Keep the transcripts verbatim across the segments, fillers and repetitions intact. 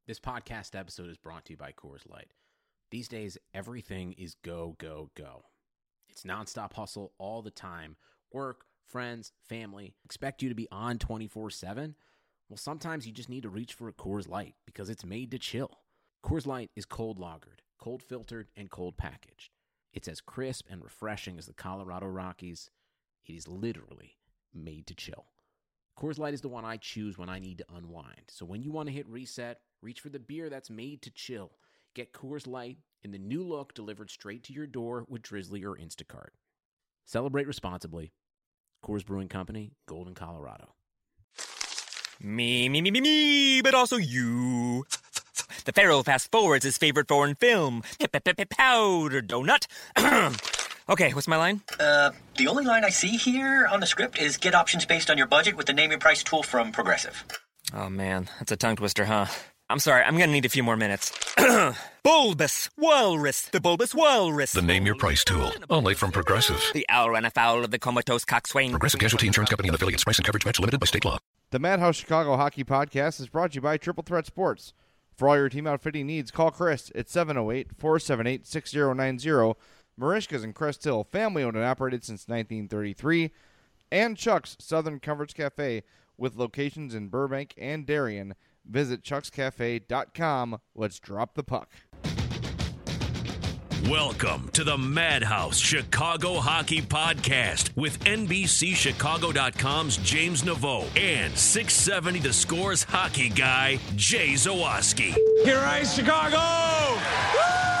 This podcast episode is brought to you by Coors Light. These days, everything is go, go, go. It's nonstop hustle all the time. Work, friends, family, expect you to be on twenty-four seven. Well, sometimes you just need to reach for a Coors Light because it's made to chill. Coors Light is cold lagered, cold filtered, and cold packaged. It's as crisp and refreshing as the Colorado Rockies. It is literally made to chill. Coors Light is the one I choose when I need to unwind. So when you want to hit reset, reach for the beer that's made to chill. Get Coors Light in the new look delivered straight to your door with Drizzly or Instacart. Celebrate responsibly. Coors Brewing Company, Golden, Colorado. Me, me, me, me, me, but also you. The Pharaoh fast forwards his favorite foreign film, Powder Donut. Okay, what's my line? Uh, the only line I see here on the script is get options based on your budget with the Name Your Price tool from Progressive. Oh man, that's a tongue twister, huh? I'm sorry, I'm gonna need a few more minutes. Bulbous Walrus, the Bulbous Walrus. The Name Your Price tool, only from Progressive. The owl ran afoul of the comatose coxswain. Progressive Casualty Insurance Company and affiliates. Price and coverage match limited by state law. The Madhouse Chicago Hockey Podcast is brought to you by Triple Threat Sports. For all your team outfitting needs, call Chris at seven oh eight, four seven eight, six oh nine oh. Marishka's in Crest Hill, family owned and operated since nineteen thirty-three. And Chuck's Southern Comforts Cafe with locations in Burbank and Darien. Visit chucks cafe dot com. Let's drop the puck. Welcome to the Madhouse Chicago Hockey Podcast with N B C Chicago dot com's James Naveau and six seventy The Score's hockey guy, Jay Zawaski. Here I Chicago! Woo!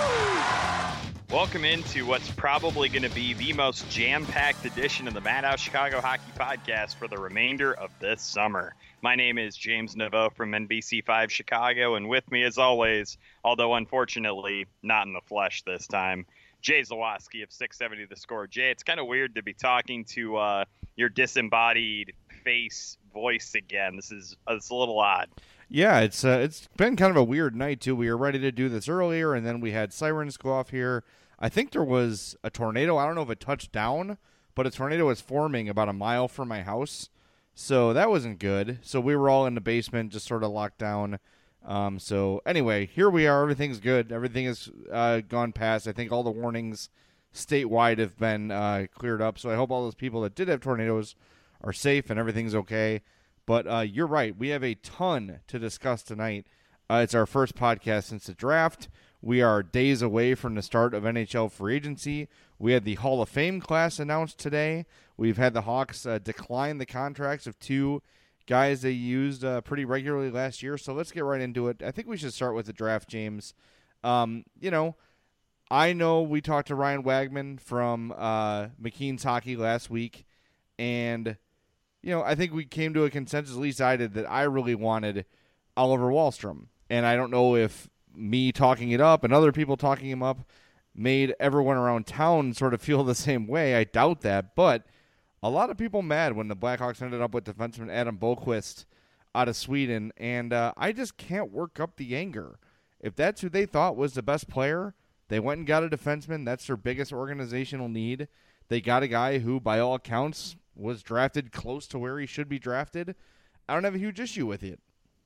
Welcome into what's probably going to be the most jam-packed edition of the Madhouse Chicago Hockey Podcast for the remainder of this summer. My name is James Naveau from N B C five Chicago, and with me as always, although unfortunately not in the flesh this time, Jay Zawaski of six seventy The Score. Jay, it's kind of weird to be talking to uh, your disembodied face voice again. This is uh, it's a little odd. Yeah, it's uh, it's been kind of a weird night, too. We were ready to do this earlier, and then we had sirens go off here. I think there was a tornado. I don't know if it touched down, but a tornado was forming about a mile from my house. So that wasn't good. So we were all in the basement, just sort of locked down. Um, so anyway, here we are. Everything's good. Everything has uh, gone past. I think all the warnings statewide have been uh, cleared up. So I hope all those people that did have tornadoes are safe and everything's okay. But uh, you're right. We have a ton to discuss tonight. Uh, it's our first podcast since the draft. We are days away from the start of N H L free agency. We had the Hall of Fame class announced today. We've had the Hawks uh, decline the contracts of two guys they used uh, pretty regularly last year. So let's get right into it. I think we should start with the draft, James. Um, you know, I know we talked to Ryan Wagman from uh, McKean's Hockey last week, and you know, I think we came to a consensus, at least I did, that I really wanted Oliver Wahlstrom. And I don't know if me talking it up and other people talking him up made everyone around town sort of feel the same way. I doubt that. But a lot of people mad when the Blackhawks ended up with defenseman Adam Boqvist out of Sweden. And uh, I just can't work up the anger. If that's who they thought was the best player, they went and got a defenseman. That's their biggest organizational need. They got a guy who, by all accounts, was drafted close to where he should be drafted. I don't have a huge issue with it.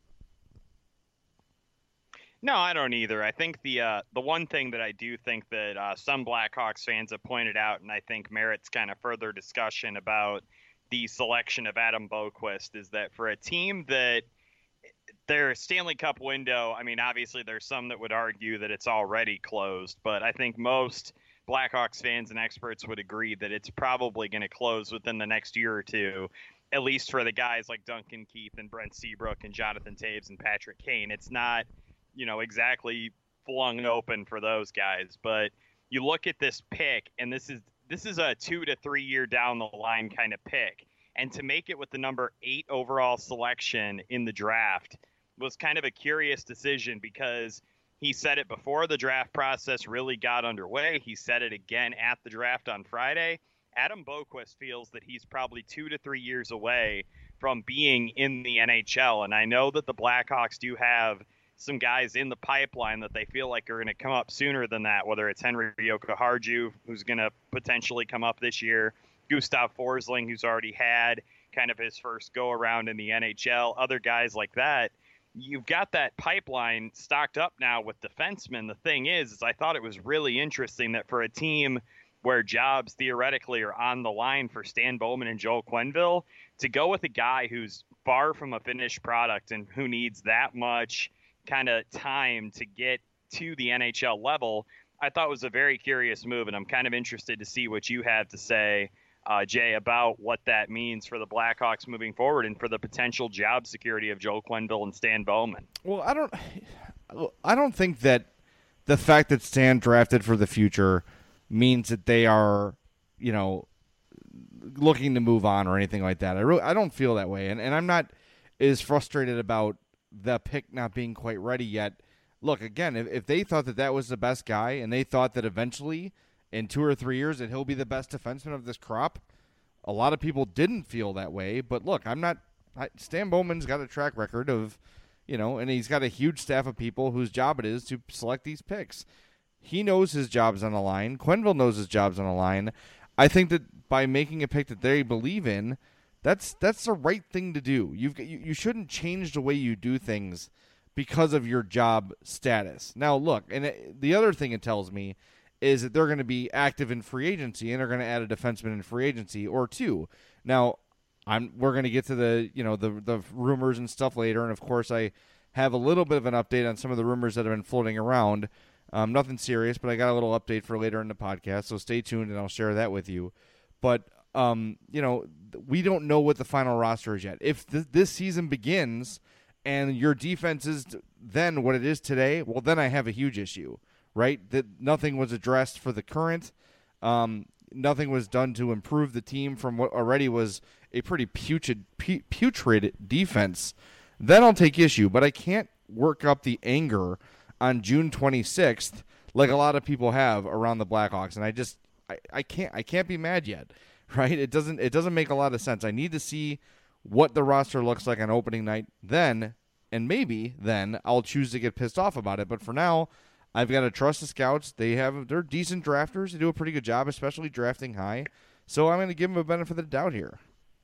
No, I don't either. I think the uh, the one thing that I do think that uh, some Blackhawks fans have pointed out, and I think merits kind of further discussion about the selection of Adam Boqvist, is that for a team that their Stanley Cup window, I mean, obviously there's some that would argue that it's already closed, but I think most Blackhawks fans and experts would agree that it's probably going to close within the next year or two, at least for the guys like Duncan Keith and Brent Seabrook and Jonathan Toews and Patrick Kane. It's not, you know, exactly flung open for those guys, but you look at this pick, and this is this is a two to three year down the line kind of pick, and to make it with the number eight overall selection in the draft was kind of a curious decision, because he said it before the draft process really got underway. He said it again at the draft on Friday. Adam Boqvist feels that he's probably two to three years away from being in the N H L. And I know that the Blackhawks do have some guys in the pipeline that they feel like are going to come up sooner than that, whether it's Henry Jokiharju, who's going to potentially come up this year, Gustav Forsling, who's already had kind of his first go around in the N H L, other guys like that. you've got that pipeline stocked up now with defensemen. The thing is, is I thought it was really interesting that for a team where jobs theoretically are on the line for Stan Bowman and Joel Quenneville, to go with a guy who's far from a finished product and who needs that much kind of time to get to the N H L level, I thought was a very curious move. And I'm kind of interested to see what you have to say, uh, Jay, about what that means for the Blackhawks moving forward and for the potential job security of Joel Quenneville and Stan Bowman. Well, I don't, I don't think that the fact that Stan drafted for the future means that they are, you know, looking to move on or anything like that. I really, I don't feel that way. And, and I'm not as frustrated about the pick not being quite ready yet. Look, again, if, if they thought that that was the best guy and they thought that eventually in two or three years that he'll be the best defenseman of this crop, a lot of people didn't feel that way. But look, I'm not, I, Stan Bowman's got a track record of, you know, and he's got a huge staff of people whose job it is to select these picks. He knows his job's on the line. Quenneville knows his job's on the line. I think that by making a pick that they believe in, that's that's the right thing to do. You've you, you shouldn't change the way you do things because of your job status. Now, look, and it, the other thing it tells me is that they're going to be active in free agency and they're going to add a defenseman in free agency or two. Now, I'm we're going to get to the you know the the rumors and stuff later, and of course I have a little bit of an update on some of the rumors that have been floating around. Um, nothing serious, but I got a little update for later in the podcast, so stay tuned and I'll share that with you. But, um, you know, we don't know what the final roster is yet. If th- this season begins and your defense is then what it is today, well, then I have a huge issue, right? That nothing was addressed for the current. Um, nothing was done to improve the team from what already was a pretty putrid, pu- putrid defense. Then I'll take issue, but I can't work up the anger on June twenty-sixth, like a lot of people have around the Blackhawks, and I just I, I can't I can't be mad yet, right? It doesn't it doesn't make a lot of sense. I need to see what the roster looks like on opening night, then, and maybe then I'll choose to get pissed off about it. But for now, I've got to trust the scouts. They have they're decent drafters. They do a pretty good job, especially drafting high. So I'm going to give them a benefit of the doubt here.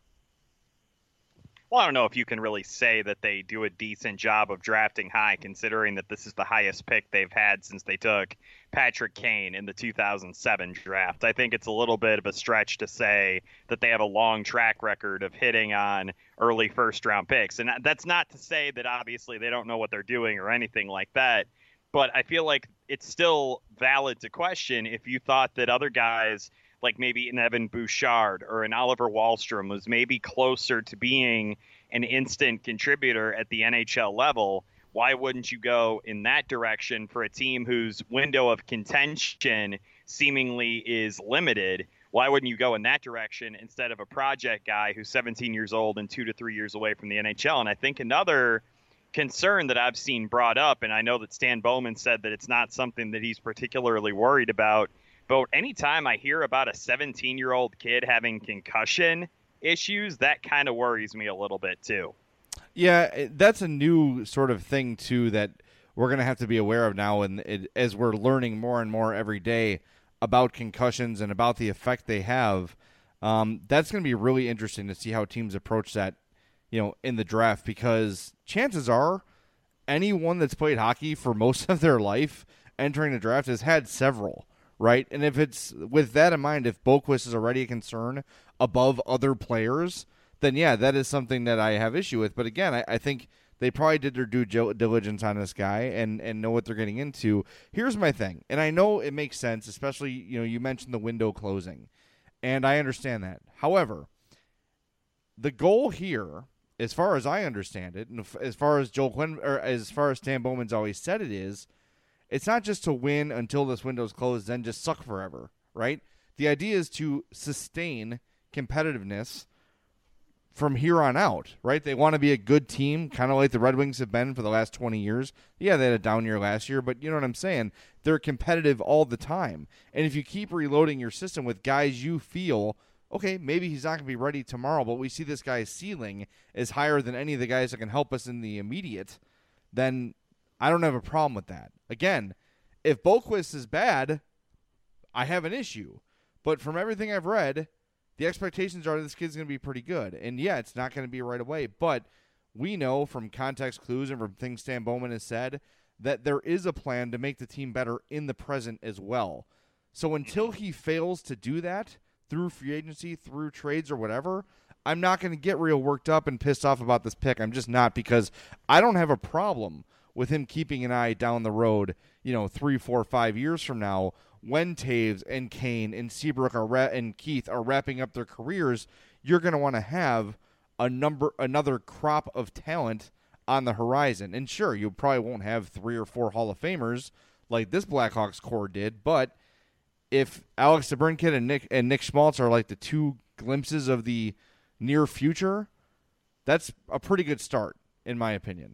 Well, I don't know if you can really say that they do a decent job of drafting high, considering that this is the highest pick they've had since they took Patrick Kane in the two thousand seven draft. I think it's a little bit of a stretch to say that they have a long track record of hitting on early first-round picks. And that's not to say that obviously they don't know what they're doing or anything like that. But I feel like it's still valid to question if you thought that other guys – like maybe an Evan Bouchard or an Oliver Wahlstrom was maybe closer to being an instant contributor at the N H L level. Why wouldn't you go in that direction for a team whose window of contention seemingly is limited? Why wouldn't you go in that direction instead of a project guy who's seventeen years old and two to three years away from the N H L? And I think another concern that I've seen brought up, and I know that Stan Bowman said that it's not something that he's particularly worried about, but anytime I hear about a seventeen-year-old kid having concussion issues, that kind of worries me a little bit too. Yeah, that's a new sort of thing too that we're going to have to be aware of now, and it, as we're learning more and more every day about concussions and about the effect they have. Um, that's going to be really interesting to see how teams approach that, you know, in the draft, because chances are anyone that's played hockey for most of their life entering the draft has had several. Right, and if it's with that in mind, if Boqvist is already a concern above other players, then yeah, that is something that I have issue with. But again, I, I think they probably did their due diligence on this guy and, and know what they're getting into. Here's my thing, and I know it makes sense, especially, you know, you mentioned the window closing, and I understand that. However, the goal here, as far as I understand it, and as far as Joel Quinn, or as far as Stan Bowman's always said it is, it's not just to win until this window's closed, then just suck forever, right? The idea is to sustain competitiveness from here on out, right? They want to be a good team, kind of like the Red Wings have been for the last twenty years. Yeah, they had a down year last year, but you know what I'm saying? They're competitive all the time. And if you keep reloading your system with guys you feel, okay, maybe he's not going to be ready tomorrow, but we see this guy's ceiling is higher than any of the guys that can help us in the immediate, then I don't have a problem with that. Again, if Boqvist is bad, I have an issue. But from everything I've read, the expectations are this kid's going to be pretty good. And yeah, it's not going to be right away. But we know from context clues and from things Stan Bowman has said that there is a plan to make the team better in the present as well. So until he fails to do that through free agency, through trades or whatever, I'm not going to get real worked up and pissed off about this pick. I'm just not, because I don't have a problem with him keeping an eye down the road, you know, three, four, five years from now when Taves and Kane and Seabrook are ra- and Keith are wrapping up their careers. You're going to want to have a number, another crop of talent on the horizon. And sure, you probably won't have three or four Hall of Famers like this Blackhawks core did, but if Alex DeBrincat and Nick and Nick Schmaltz are like the two glimpses of the near future, that's a pretty good start, in my opinion.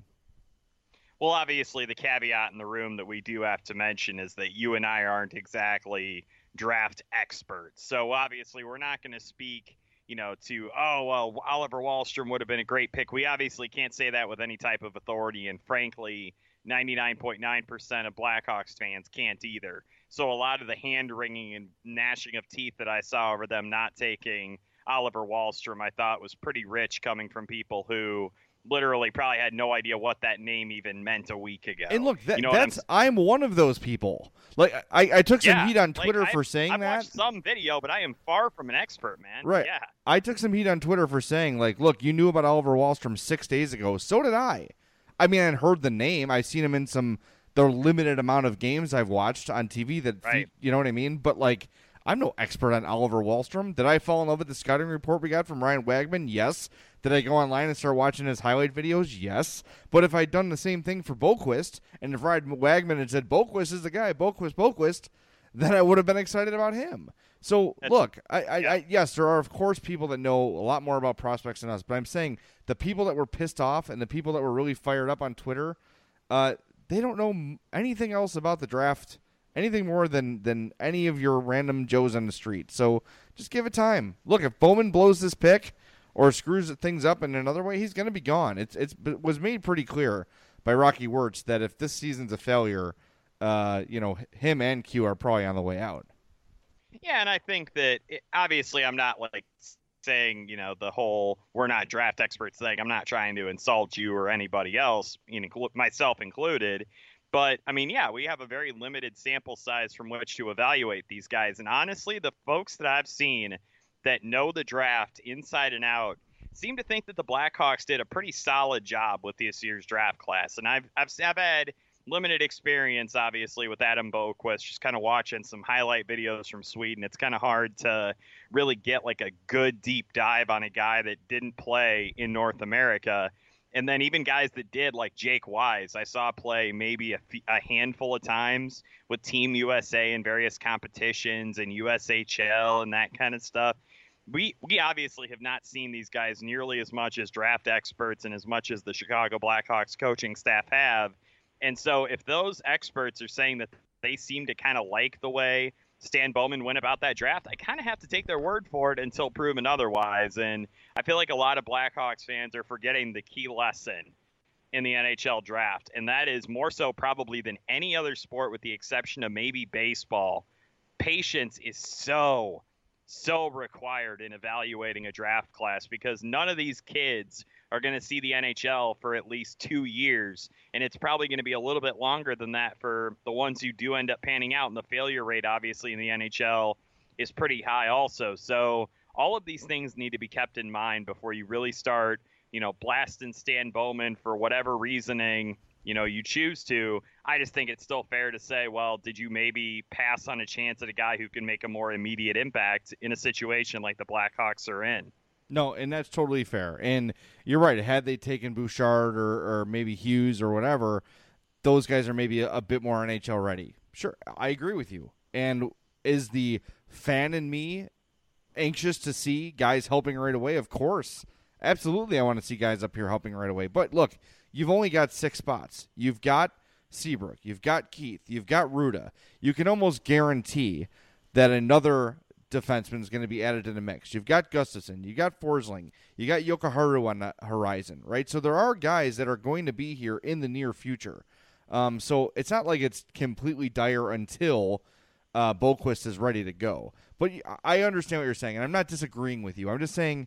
Well, obviously, the caveat in the room that we do have to mention is that you and I aren't exactly draft experts. So obviously, we're not going to speak, you know, to, oh, well, Oliver Wahlstrom would have been a great pick. We obviously can't say that with any type of authority. And frankly, ninety-nine point nine percent of Blackhawks fans can't either. So a lot of the hand-wringing and gnashing of teeth that I saw over them not taking Oliver Wahlstrom, I thought was pretty rich, coming from people who literally probably had no idea what that name even meant a week ago. And look, that, you know that's I'm, I'm, one of those people. Like I, I took some yeah, heat on Twitter like, for I've, saying I've that. I've watched some video, but I am far from an expert, man. Right. Yeah. I took some heat on Twitter for saying, like, look, you knew about Oliver Wahlstrom six days ago. So did I. I mean, I heard the name. I've seen him in some the limited amount of games I've watched on T V that, right. you know what I mean? But, like, I'm no expert on Oliver Wahlstrom. Did I fall in love with the scouting report we got from Ryan Wagman? Yes. Did I go online and start watching his highlight videos? Yes. But if I'd done the same thing for Boquist, and if Ryan Wagman had said, Boquist is the guy, Boquist, Boquist, then I would have been excited about him. So, That's, look, I, I, yeah. I, yes, there are, of course, people that know a lot more about prospects than us, but I'm saying the people that were pissed off and the people that were really fired up on Twitter, uh, they don't know anything else about the draft, anything more than, than any of your random Joes on the street. So just give it time. Look, if Bowman blows this pick or screws things up in another way, he's going to be gone. It's it's it was made pretty clear by Rocky Wirtz that if this season's a failure, uh, you know, him and Q are probably on the way out. Yeah, and I think that it, obviously I'm not like saying, you know, the whole we're not draft experts thing. I'm not trying to insult you or anybody else, you know, myself included. But, I mean, yeah, we have a very limited sample size from which to evaluate these guys. And honestly, the folks that I've seen that know the draft inside and out seem to think that the Blackhawks did a pretty solid job with this year's draft class. And I've I've, I've had limited experience, obviously, with Adam Boquist, just kind of watching some highlight videos from Sweden. It's kind of hard to really get like a good deep dive on a guy that didn't play in North America. And then even guys that did, like Jake Wise, I saw play maybe a, a handful of times with Team U S A in various competitions and U S H L and that kind of stuff. We we obviously have not seen these guys nearly as much as draft experts and as much as the Chicago Blackhawks coaching staff have. And so if those experts are saying that they seem to kind of like the way Stan Bowman went about that draft, I kind of have to take their word for it until proven otherwise. And I feel like a lot of Blackhawks fans are forgetting the key lesson in the N H L draft, and that is more so probably than any other sport with the exception of maybe baseball. Patience is so, so required in evaluating a draft class because none of these kids are going to see the N H L for at least two years, and it's probably going to be a little bit longer than that for the ones who do end up panning out, and the failure rate, obviously, in the N H L is pretty high also. So all of these things need to be kept in mind before you really start, you know, blasting Stan Bowman for whatever reasoning, you know, you choose to. I just think it's still fair to say, well, did you maybe pass on a chance at a guy who can make a more immediate impact in a situation like the Blackhawks are in? No, and that's totally fair. And you're right. Had they taken Bouchard or, or maybe Hughes or whatever, those guys are maybe a, a bit more N H L ready. Sure, I agree with you. And is the fan in me anxious to see guys helping right away? Of course. Absolutely, I want to see guys up here helping right away. But look, you've only got six spots. You've got Seabrook. You've got Keith. You've got Ruda. You can almost guarantee that another defenseman is going to be added to the mix. You've got Gustafsson, you got Forsling, you got Yokoharu on the horizon, right? So there are guys that are going to be here in the near future. Um, so it's not like it's completely dire until uh, Boquist is ready to go. But I understand what you're saying, and I'm not disagreeing with you. I'm just saying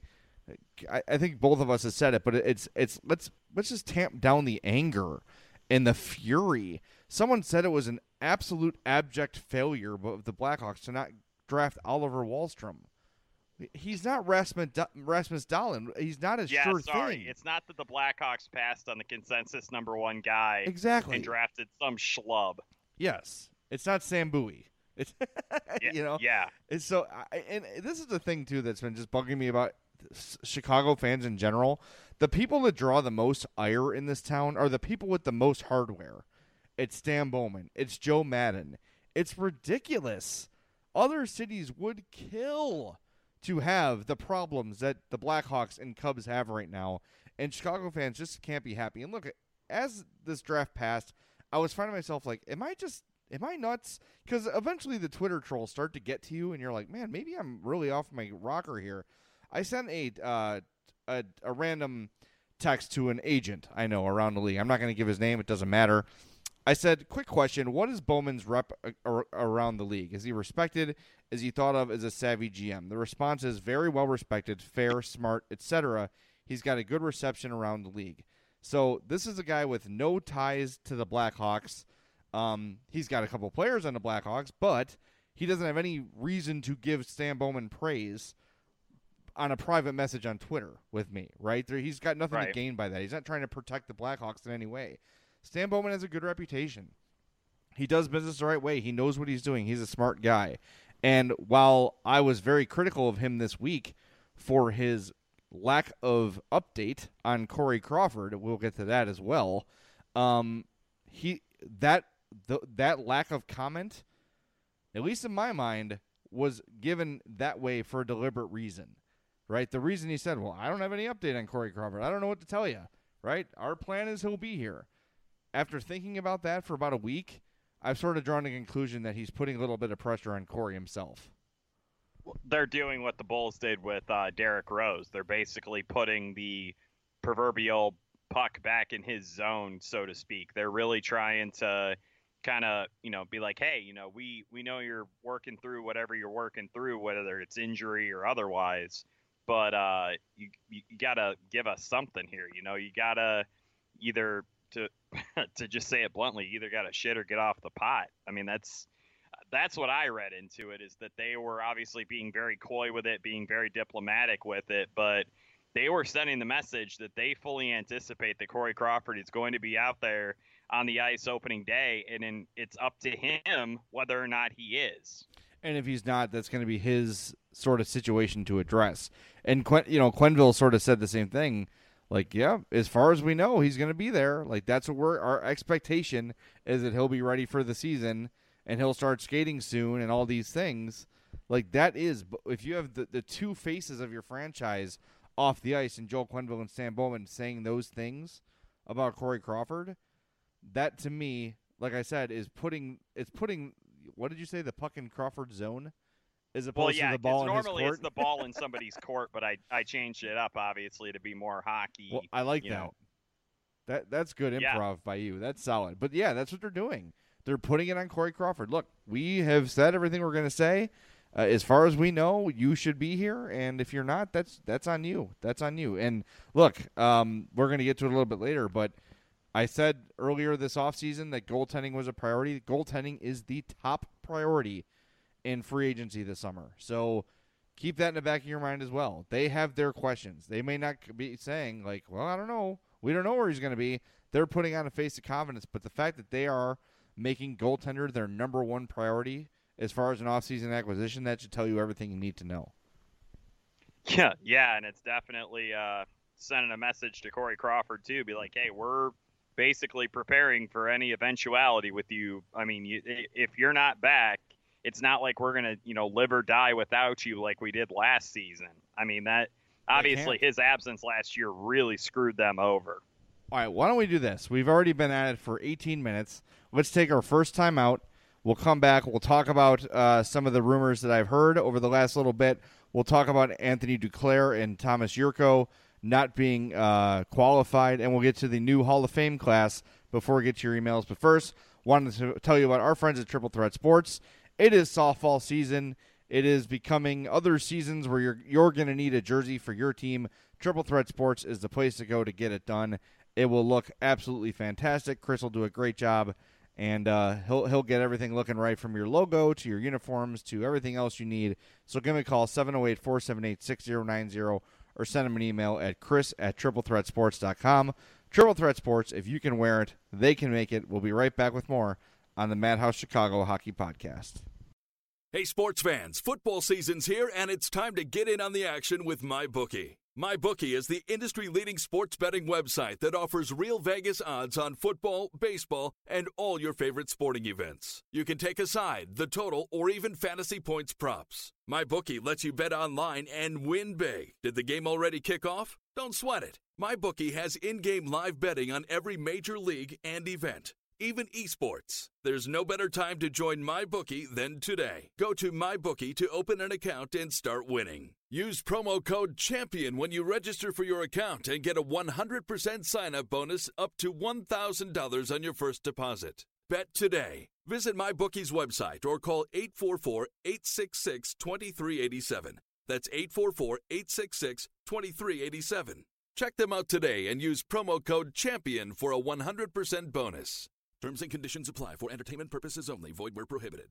I, I think both of us have said it, but it's it's let's let's just tamp down the anger and the fury. Someone said it was an absolute abject failure of the Blackhawks to not draft Oliver Wahlstrom. He's not Rasmus Rasmus Dahlin. He's not a yeah, sure sorry. thing. It's not that the Blackhawks passed on the consensus number one guy exactly and drafted some schlub. Yes, it's not Sam Bowie. It's yeah, you know yeah. And so, I, and this is the thing too that's been just bugging me about Chicago fans in general. The people that draw the most ire in this town are the people with the most hardware. It's Stan Bowman. It's Joe Madden. It's ridiculous. Other cities would kill to have the problems that the Blackhawks and Cubs have right now, and Chicago fans just can't be happy. And look, as this draft passed, I was finding myself like, am I just, am I nuts? Because eventually the Twitter trolls start to get to you, and you're like, man, maybe I'm really off my rocker here. I sent a uh, a, a random text to an agent I know around the league. I'm not going to give his name. It doesn't matter. I said, quick question, what is Bowman's rep ar- around the league? Is he respected? Is he thought of as a savvy G M? The response is very well respected, fair, smart, et cetera. He's got a good reception around the league. So this is a guy with no ties to the Blackhawks. Um, he's got a couple players on the Blackhawks, but he doesn't have any reason to give Stan Bowman praise on a private message on Twitter with me, right? There, he's got nothing right. to gain by that. He's not trying to protect the Blackhawks in any way. Stan Bowman has a good reputation. He does business the right way. He knows what he's doing. He's a smart guy. And while I was very critical of him this week for his lack of update on Corey Crawford, we'll get to that as well. Um, he that the, that lack of comment, at least in my mind, was given that way for a deliberate reason, right? The reason he said, well, I don't have any update on Corey Crawford. I don't know what to tell you, right? Our plan is he'll be here. After thinking about that for about a week, I've sort of drawn a conclusion that he's putting a little bit of pressure on Corey himself. They're doing what the Bulls did with uh, Derrick Rose. They're basically putting the proverbial puck back in his zone, so to speak. They're really trying to kind of, you know, be like, hey, you know, we, we know you're working through whatever you're working through, whether it's injury or otherwise, but uh, you, you, you got to give us something here. You know, you got to either – to to just say it bluntly, you either got to shit or get off the pot. I mean, that's that's what I read into it, is that they were obviously being very coy with it, being very diplomatic with it, but they were sending the message that they fully anticipate that Corey Crawford is going to be out there on the ice opening day, and then it's up to him whether or not he is. And if he's not, that's going to be his sort of situation to address. And, Quen- you know, Quenneville sort of said the same thing. Like, yeah, as far as we know, he's going to be there. Like, that's what we're, our expectation is, that he'll be ready for the season and he'll start skating soon and all these things. Like, that is, if you have the, the two faces of your franchise off the ice, and Joel Quenneville and Stan Bowman saying those things about Corey Crawford, that to me, like I said, is putting, it's putting, what did you say, the puck in Crawford's zone? As opposed well, yeah, to the ball in normally his court? it's the ball in somebody's court, but I, I changed it up, obviously, to be more hockey. Well, I like you that. know. That That's good improv Yeah. by you. That's solid. But, yeah, that's what they're doing. They're putting it on Corey Crawford. Look, we have said everything we're going to say. Uh, as far as we know, you should be here, and if you're not, that's that's on you. That's on you. And, look, um, we're going to get to it a little bit later, but I said earlier this offseason that goaltending was a priority. Goaltending is the top priority in free agency this summer. So keep that in the back of your mind as well. They have their questions. They may not be saying, like, well, I don't know. We don't know where he's going to be. They're putting on a face of confidence. But the fact that they are making goaltender their number one priority as far as an offseason acquisition, that should tell you everything you need to know. Yeah, yeah, and it's definitely uh, sending a message to Corey Crawford, too. Be like, hey, we're basically preparing for any eventuality with you. I mean, you, if you're not back, it's not like we're going to, you know, live or die without you like we did last season. I mean, that obviously his absence last year really screwed them over. All right, why don't we do this? We've already been at it for eighteen minutes. Let's take our first time out. We'll come back. We'll talk about uh, some of the rumors that I've heard over the last little bit. We'll talk about Anthony Duclair and Thomas Yurko not being uh, qualified, and we'll get to the new Hall of Fame class before we get to your emails. But first, wanted to tell you about our friends at Triple Threat Sports. It is softball season, it is becoming other seasons where you're you're going to need a jersey for your team. Triple Threat Sports is the place to go to get it done. It will look absolutely fantastic. Chris will do a great job, and uh, he'll he'll get everything looking right from your logo to your uniforms to everything else you need. So give me a call, seven oh eight, four seven eight, six oh nine oh, or send him an email at chris at triple threat sports dot com. Triple Threat Sports, if you can wear it, they can make it. We'll be right back with more on the Madhouse Chicago Hockey Podcast. Hey, sports fans, football season's here, and it's time to get in on the action with MyBookie. MyBookie is the industry-leading sports betting website that offers real Vegas odds on football, baseball, and all your favorite sporting events. You can take a side, the total, or even fantasy points props. MyBookie lets you bet online and win big. Did the game already kick off? Don't sweat it. MyBookie has in-game live betting on every major league and event, even esports. There's no better time to join MyBookie than today. Go to MyBookie to open an account and start winning. Use promo code CHAMPION when you register for your account and get a one hundred percent sign-up bonus up to one thousand dollars on your first deposit. Bet today. Visit MyBookie's website or call eight four four, eight six six, two three eight seven. That's eight four four, eight six six, two three eight seven. Check them out today and use promo code CHAMPION for a one hundred percent bonus. Terms and conditions apply for entertainment purposes only. Void where prohibited.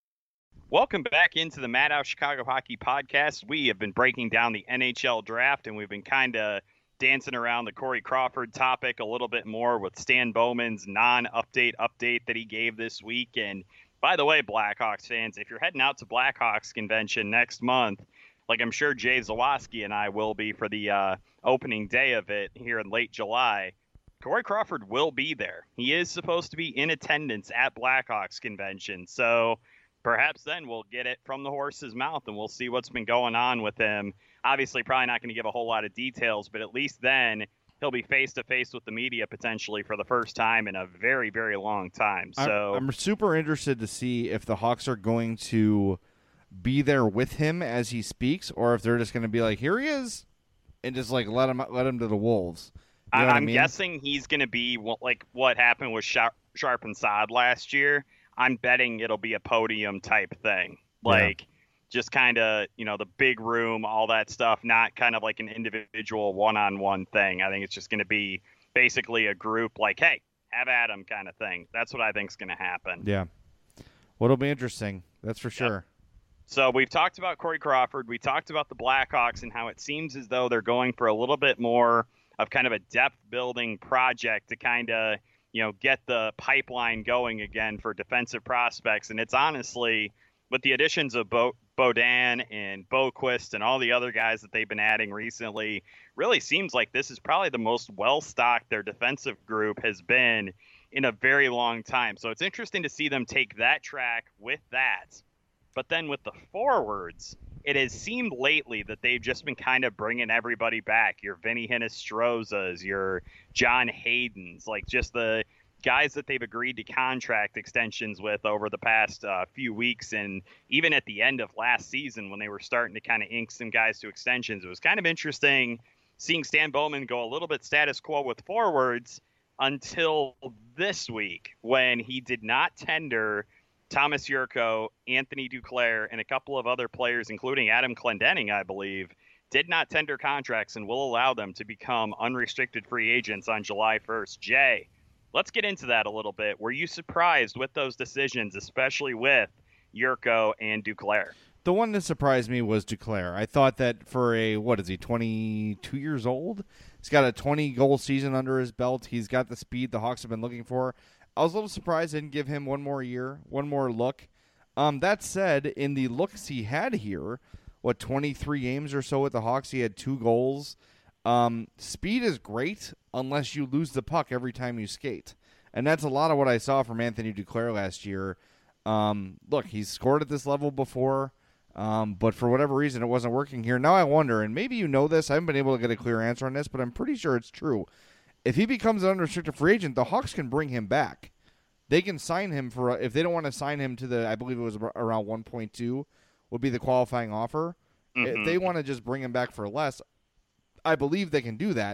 Welcome back into the Madhouse Chicago Hockey Podcast. We have been breaking down the N H L draft, and we've been kind of dancing around the Corey Crawford topic a little bit more with Stan Bowman's non-update update that he gave this week. And by the way, Blackhawks fans, if you're heading out to Blackhawks convention next month, like I'm sure Jay Zawaski and I will be for the uh, opening day of it here in late July, Corey Crawford will be there. He is supposed to be in attendance at Blackhawks convention. So perhaps then we'll get it from the horse's mouth and we'll see what's been going on with him. Obviously, probably not going to give a whole lot of details, but at least then he'll be face-to-face with the media potentially for the first time in a very, very long time. So I'm, I'm super interested to see if the Hawks are going to be there with him as he speaks, or if they're just going to be like, here he is, and just like let him let him to the Wolves. You know I'm I mean? guessing he's going to be like what happened with Sharp, Sharp and Saad last year. I'm betting it'll be a podium type thing. Like, yeah. Just kind of, you know, the big room, all that stuff, not kind of like an individual one-on-one thing. I think it's just going to be basically a group like, hey, have at 'em kind of thing. That's what I think is going to happen. Yeah. Well, it'll be interesting. That's for sure. Yep. So we've talked about Corey Crawford. We talked about the Blackhawks and how it seems as though they're going for a little bit more of kind of a depth-building project to kind of, you know, get the pipeline going again for defensive prospects. And it's honestly, with the additions of Bo- Bodan and Boquist and all the other guys that they've been adding recently, really seems like this is probably the most well-stocked their defensive group has been in a very long time. So it's interesting to see them take that track with that. But then with the forwards, it has seemed lately that they've just been kind of bringing everybody back. Your Vinny Hinostrozas, your John Haydens, like just the guys that they've agreed to contract extensions with over the past uh, few weeks. And even at the end of last season, when they were starting to kind of ink some guys to extensions, it was kind of interesting seeing Stan Bowman go a little bit status quo with forwards until this week when he did not tender Thomas Yurko, Anthony Duclair, and a couple of other players, including Adam Clendening, I believe, did not tender contracts and will allow them to become unrestricted free agents on July first. Jay, let's get into that a little bit. Were you surprised with those decisions, especially with Yurko and Duclair? The one that surprised me was Duclair. I thought that for a, what is he, twenty-two years old? He's got a twenty-goal season under his belt. He's got the speed the Hawks have been looking for. I was a little surprised they didn't give him one more year, one more look. Um, that said, in the looks he had here, what, twenty-three games or so with the Hawks, he had two goals. Um, speed is great unless you lose the puck every time you skate. And that's a lot of what I saw from Anthony Duclair last year. Um, look, he's scored at this level before, um, but for whatever reason, it wasn't working here. Now I wonder, and maybe you know this, I haven't been able to get a clear answer on this, but I'm pretty sure it's true. If he becomes an unrestricted free agent, the Hawks can bring him back. They can sign him for, if they don't want to sign him to the, I believe it was around one point two would be the qualifying offer. Mm-hmm. If they want to just bring him back for less, I believe they can do that.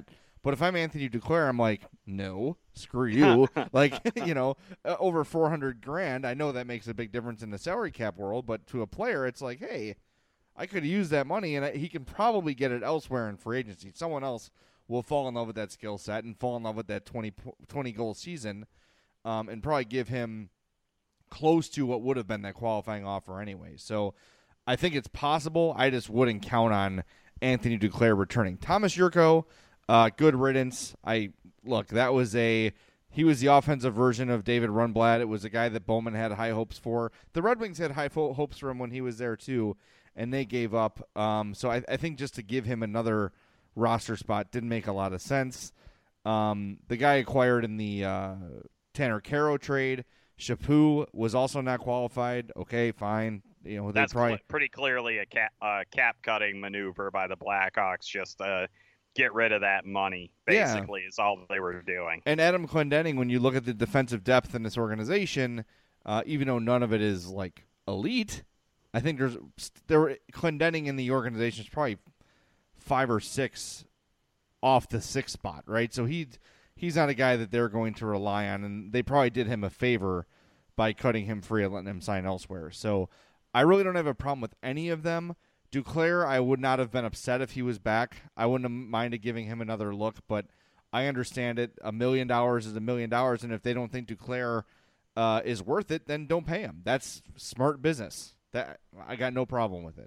But if I'm Anthony Duclair, I'm like, no, screw you. Like, you know, uh, over four hundred grand. I know that makes a big difference in the salary cap world, but to a player, it's like, hey, I could use that money, and I, he can probably get it elsewhere in free agency. Someone else will fall in love with that skill set and fall in love with that twenty, twenty goal season, um, and probably give him close to what would have been that qualifying offer anyway. So I think it's possible. I just wouldn't count on Anthony Duclair returning. Thomas Yurko, uh, good riddance. I look, that was a he was the offensive version of David Rundblad. It was a guy that Bowman had high hopes for. The Red Wings had high fo- hopes for him when he was there too, and they gave up. Um, so I, I think just to give him another roster spot didn't make a lot of sense. Um, the guy acquired in the uh, Tanner Caro trade, Chaput, was also not qualified. Okay, fine. You know, that's probably... cl- pretty clearly a cap, uh, cap cutting maneuver by the Blackhawks, just to get rid of that money. Basically, yeah. is all they were doing. And Adam Clendenning, when you look at the defensive depth in this organization, uh, even though none of it is like elite, I think there's there Clendenning in the organization is probably five or six off the sixth spot, right? So he he's not a guy that they're going to rely on, and they probably did him a favor by cutting him free and letting him sign elsewhere. So I really don't have a problem with any of them. Duclair, I would not have been upset if he was back. I wouldn't have minded giving him another look, but I understand it. A million dollars is a million dollars, and if they don't think Duclair uh, is worth it, then don't pay him. That's smart business. That I got no problem with it.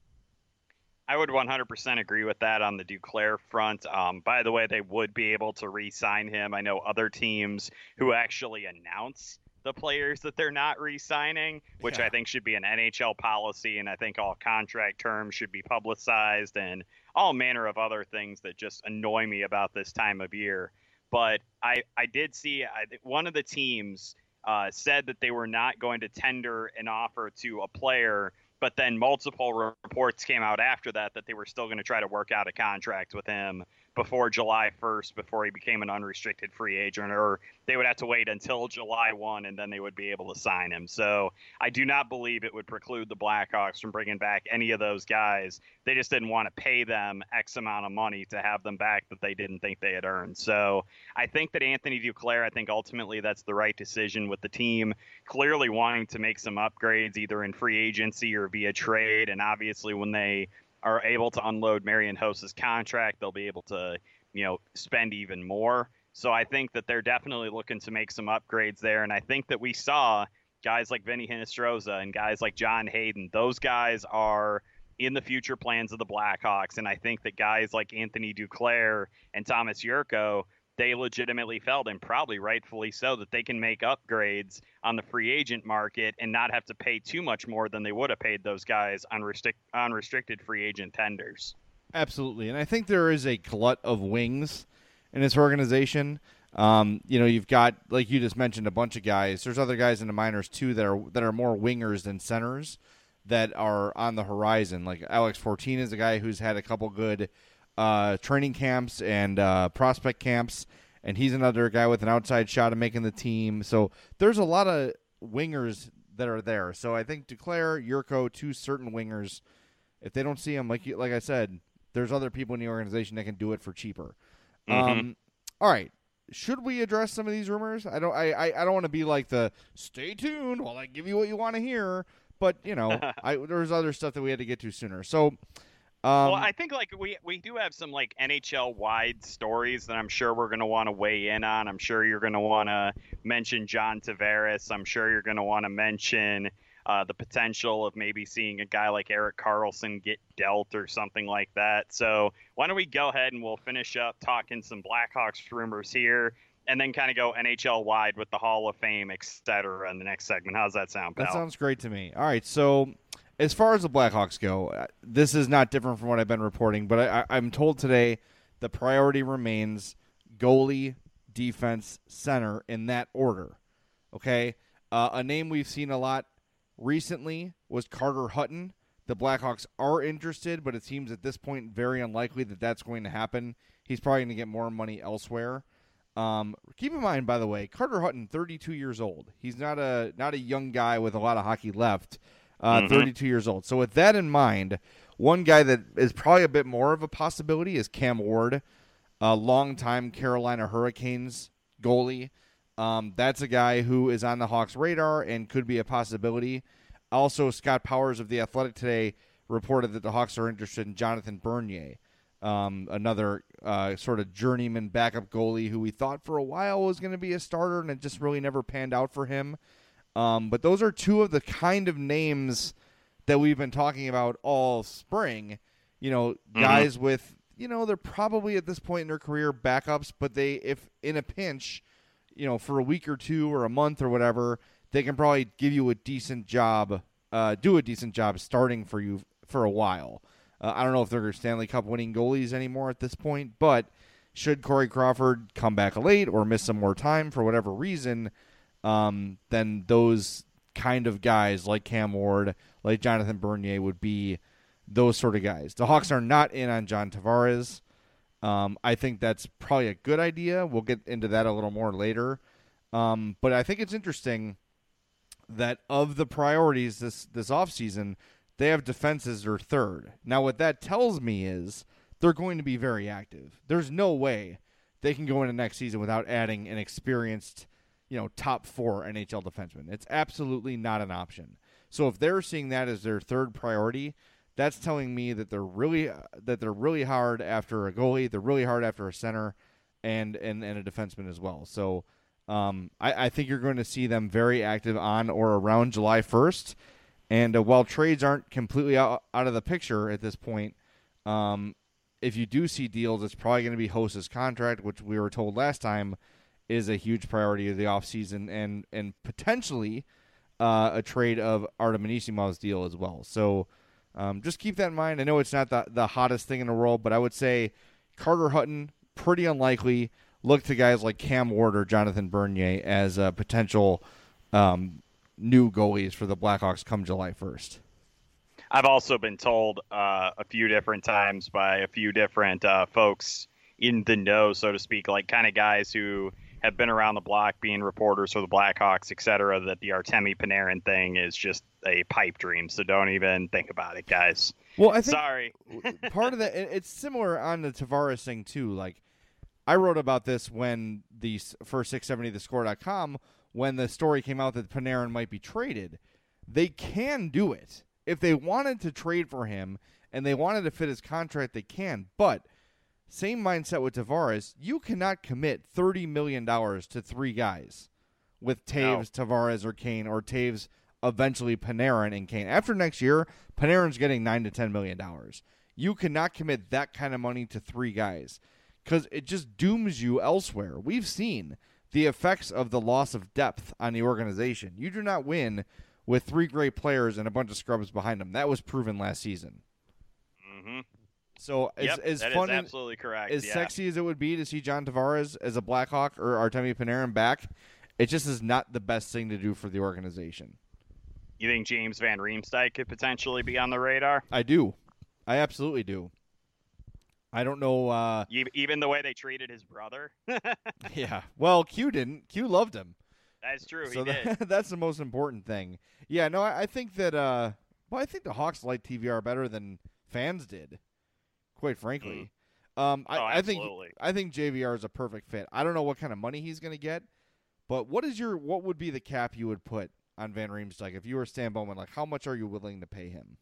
I would one hundred percent agree with that on the Duclair front. Um, by the way, they would be able to re-sign him. I know other teams who actually announce the players that they're not re-signing, which yeah. I think should be an N H L policy, and I think all contract terms should be publicized and all manner of other things that just annoy me about this time of year. But I, I did see I, one of the teams uh, said that they were not going to tender an offer to a player, but then multiple reports came out after that that they were still going to try to work out a contract with him before July first, before he became an unrestricted free agent, or they would have to wait until July first and then they would be able to sign him. So I do not believe it would preclude the Blackhawks from bringing back any of those guys. They just didn't want to pay them X amount of money to have them back that they didn't think they had earned. So I think that Anthony Duclair, I think ultimately that's the right decision with the team clearly wanting to make some upgrades either in free agency or via trade. And obviously when they are able to unload Marian Hossa's contract, they'll be able to, you know, spend even more. So I think that they're definitely looking to make some upgrades there. And I think that we saw guys like Vinny Hinostroza and guys like John Hayden. Those guys are in the future plans of the Blackhawks. And I think that guys like Anthony Duclair and Thomas Yurko, they legitimately felt, and probably rightfully so, that they can make upgrades on the free agent market and not have to pay too much more than they would have paid those guys on restric- unrestricted free agent tenders. Absolutely. And I think there is a glut of wings in this organization. Um, you know, you've got, like you just mentioned, a bunch of guys. There's other guys in the minors, too, that are that are more wingers than centers that are on the horizon. Like Alex Fortin is a guy who's had a couple good Uh, training camps and uh, prospect camps, and he's another guy with an outside shot of making the team. So there's a lot of wingers that are there. So I think Duclair, Yurko, two certain wingers. If they don't see him, like you, like I said, there's other people in the organization that can do it for cheaper. Mm-hmm. Um, all right, should we address some of these rumors? I don't. I I, I don't want to be like the stay tuned while I give you what you want to hear. But you know, I there's other stuff that we had to get to sooner. So. Um, well, I think like we, we do have some like N H L wide stories that I'm sure we're going to want to weigh in on. I'm sure you're going to want to mention John Tavares. I'm sure you're going to want to mention uh, the potential of maybe seeing a guy like Erik Karlsson get dealt or something like that. So why don't we go ahead and we'll finish up talking some Blackhawks rumors here and then kind of go N H L wide with the Hall of Fame, et cetera in the next segment. How's that sound, pal? That sounds great to me. All right, so as far as the Blackhawks go, this is not different from what I've been reporting, but I, I'm told today the priority remains goalie, defense, center in that order. Okay? Uh, a name we've seen a lot recently was Carter Hutton. The Blackhawks are interested, but it seems at this point very unlikely that that's going to happen. He's probably going to get more money elsewhere. Um, keep in mind, by the way, Carter Hutton, thirty-two years old. He's not a not a young guy with a lot of hockey left. Uh, mm-hmm. thirty-two years old. So with that in mind, one guy that is probably a bit more of a possibility is Cam Ward. a longtime Carolina Hurricanes goalie. Um, that's a guy who is on the Hawks' radar and could be a possibility. Also, Scott Powers of The Athletic today reported that the Hawks are interested in Jonathan Bernier, um, another uh, sort of journeyman backup goalie who we thought for a while was going to be a starter, and it just really never panned out for him. Um, but those are two of the kind of names that we've been talking about all spring. You know, mm-hmm. guys with, you know, they're probably at this point in their career backups, but they, if in a pinch, you know, for a week or two or a month or whatever, they can probably give you a decent job, uh, do a decent job starting for you for a while. Uh, I don't know if they're Stanley Cup winning goalies anymore at this point, but should Corey Crawford come back late or miss some more time for whatever reason, um, then those kind of guys like Cam Ward, like Jonathan Bernier would be those sort of guys. The Hawks are not in on John Tavares. Um, I think that's probably a good idea. We'll get into that a little more later. Um, but I think it's interesting that of the priorities this, this offseason, they have defense as their third. Now, what that tells me is they're going to be very active. There's no way they can go into next season without adding an experienced, you know, top four N H L defenseman. It's absolutely not an option. So if they're seeing that as their third priority, that's telling me that they're really that they're really hard after a goalie, they're really hard after a center, and and, and a defenseman as well. So um, I, I think you're going to see them very active on or around July first. And uh, while trades aren't completely out, out of the picture at this point, um, if you do see deals, it's probably going to be Host's contract, which we were told last time is a huge priority of the offseason, and and potentially uh, a trade of Artem Anisimov's deal as well. So um, just keep that in mind. I know it's not the, the hottest thing in the world, but I would say Carter Hutton, pretty unlikely. Look to guys like Cam Ward or Jonathan Bernier as a potential um, new goalies for the Blackhawks come July first. I've also been told uh, a few different times by a few different uh, folks in the know, so to speak, like kind of guys who have been around the block being reporters for the Blackhawks, et cetera, that the Artemi Panarin thing is just a pipe dream. So don't even think about it, guys. Well, I think Sorry. part of that, it's similar on the Tavares thing too. Like I wrote about this when the for six seventy the score dot com, when the story came out that Panarin might be traded. They can do it. If they wanted to trade for him and they wanted to fit his contract, they can. But same mindset with Tavares, you cannot commit thirty million dollars to three guys with Taves, no. Tavares, or Kane, or Taves, eventually Panarin and Kane. After next year, Panarin's getting nine to ten million dollars. You cannot commit that kind of money to three guys because it just dooms you elsewhere. We've seen the effects of the loss of depth on the organization. You do not win with three great players and a bunch of scrubs behind them. That was proven last season. Mm-hmm. So as, yep, as that fun is absolutely correct. as yeah. sexy as it would be to see John Tavares as a Blackhawk or Artemi Panarin back, it just is not the best thing to do for the organization. You think James Van Riemsdyk could potentially be on the radar? I do. I absolutely do. I don't know. Uh, Even the way they treated his brother? Yeah. Well, Q didn't. Q loved him. That's true. So he that, did. that's the most important thing. Yeah, no, I, I think that, uh, well, I think the Hawks like T V R better than fans did, quite frankly. Mm. Um, I, oh, I think absolutely. I think J V R is a perfect fit. I don't know what kind of money he's going to get, but what is your what would be the cap you would put on Van Riemsdyk if you were Stan Bowman? Like, how much are you willing to pay him?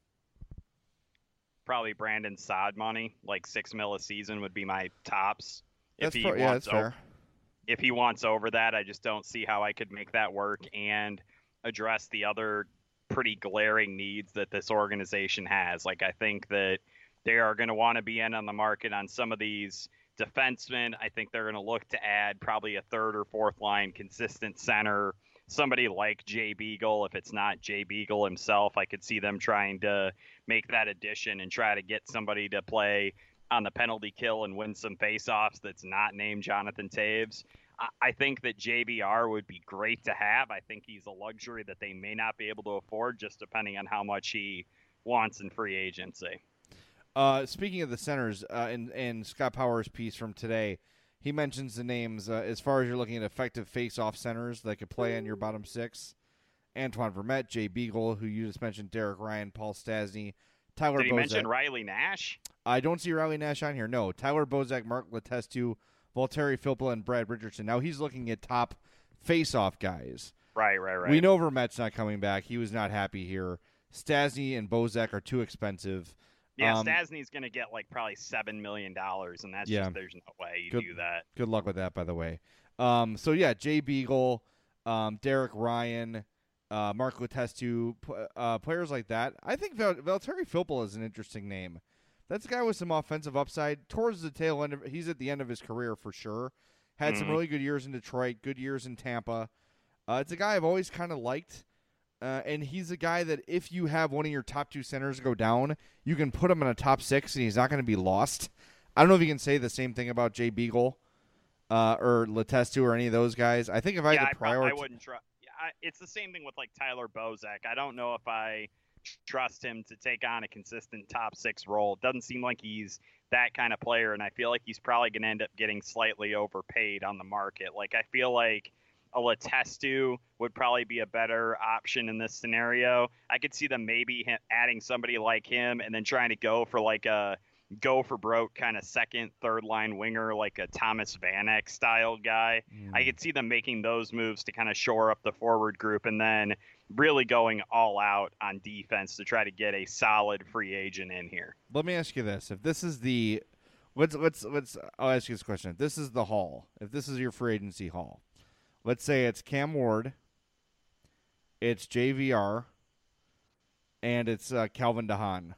Probably Brandon Saad money, like six mil a season would be my tops. That's if he pro- wants yeah, that's o- fair. If he wants over that, I just don't see how I could make that work and address the other pretty glaring needs that this organization has. Like, I think that they are going to want to be in on the market on some of these defensemen. I think they're going to look to add probably a third or fourth line consistent center, somebody like Jay Beagle. If it's not Jay Beagle himself, I could see them trying to make that addition and try to get somebody to play on the penalty kill and win some faceoffs that's not named Jonathan Taves. I think that J V R would be great to have. I think he's a luxury that they may not be able to afford, just depending on how much he wants in free agency. Uh, speaking of the centers, uh, in, in Scott Powers' piece from today, he mentions the names, uh, as far as you're looking at effective face-off centers that could play on your bottom six. Antoine Vermette, Jay Beagle, who you just mentioned, Derek Ryan, Paul Stastny, Tyler Did he Bozak. mention Riley Nash? I don't see Riley Nash on here. No, Tyler Bozak, Mark Letestu, Valtteri Filppula, and Brad Richardson. Now he's looking at top face-off guys. Right, right, right. We know Vermette's not coming back. He was not happy here. Stastny and Bozak are too expensive. Yeah, um, Stastny's going to get like probably seven million dollars, and that's yeah. just, there's no way you good, do that. Good luck with that, by the way. Um, so, yeah, Jay Beagle, um, Derek Ryan, uh, Mark Letestu, uh, players like that. I think Val- Valtteri Filppula is an interesting name. That's a guy with some offensive upside. Towards the tail end of, he's at the end of his career for sure. Had mm-hmm. some really good years in Detroit, good years in Tampa. Uh, it's a guy I've always kind of liked, uh, and he's a guy that if you have one of your top two centers go down, you can put him in a top six, and he's not going to be lost. I don't know if you can say the same thing about Jay Beagle uh, or Letestu or any of those guys. I think if I yeah, had to I, prioritize, I wouldn't try. It's the same thing with like Tyler Bozak. I don't know if I trust him to take on a consistent top six role. It doesn't seem like he's that kind of player, and I feel like he's probably going to end up getting slightly overpaid on the market. Like I feel like a Letestu would probably be a better option in this scenario. I could see them maybe adding somebody like him and then trying to go for like a go for broke kind of second, third line winger, like a Thomas Vanek style guy. Mm. I could see them making those moves to kind of shore up the forward group and then really going all out on defense to try to get a solid free agent in here. Let me ask you this. If this is the, let's, let's, let's, I'll ask you this question. If this is the haul, if this is your free agency haul, let's say it's Cam Ward, it's J V R, and it's uh, Calvin DeHaan.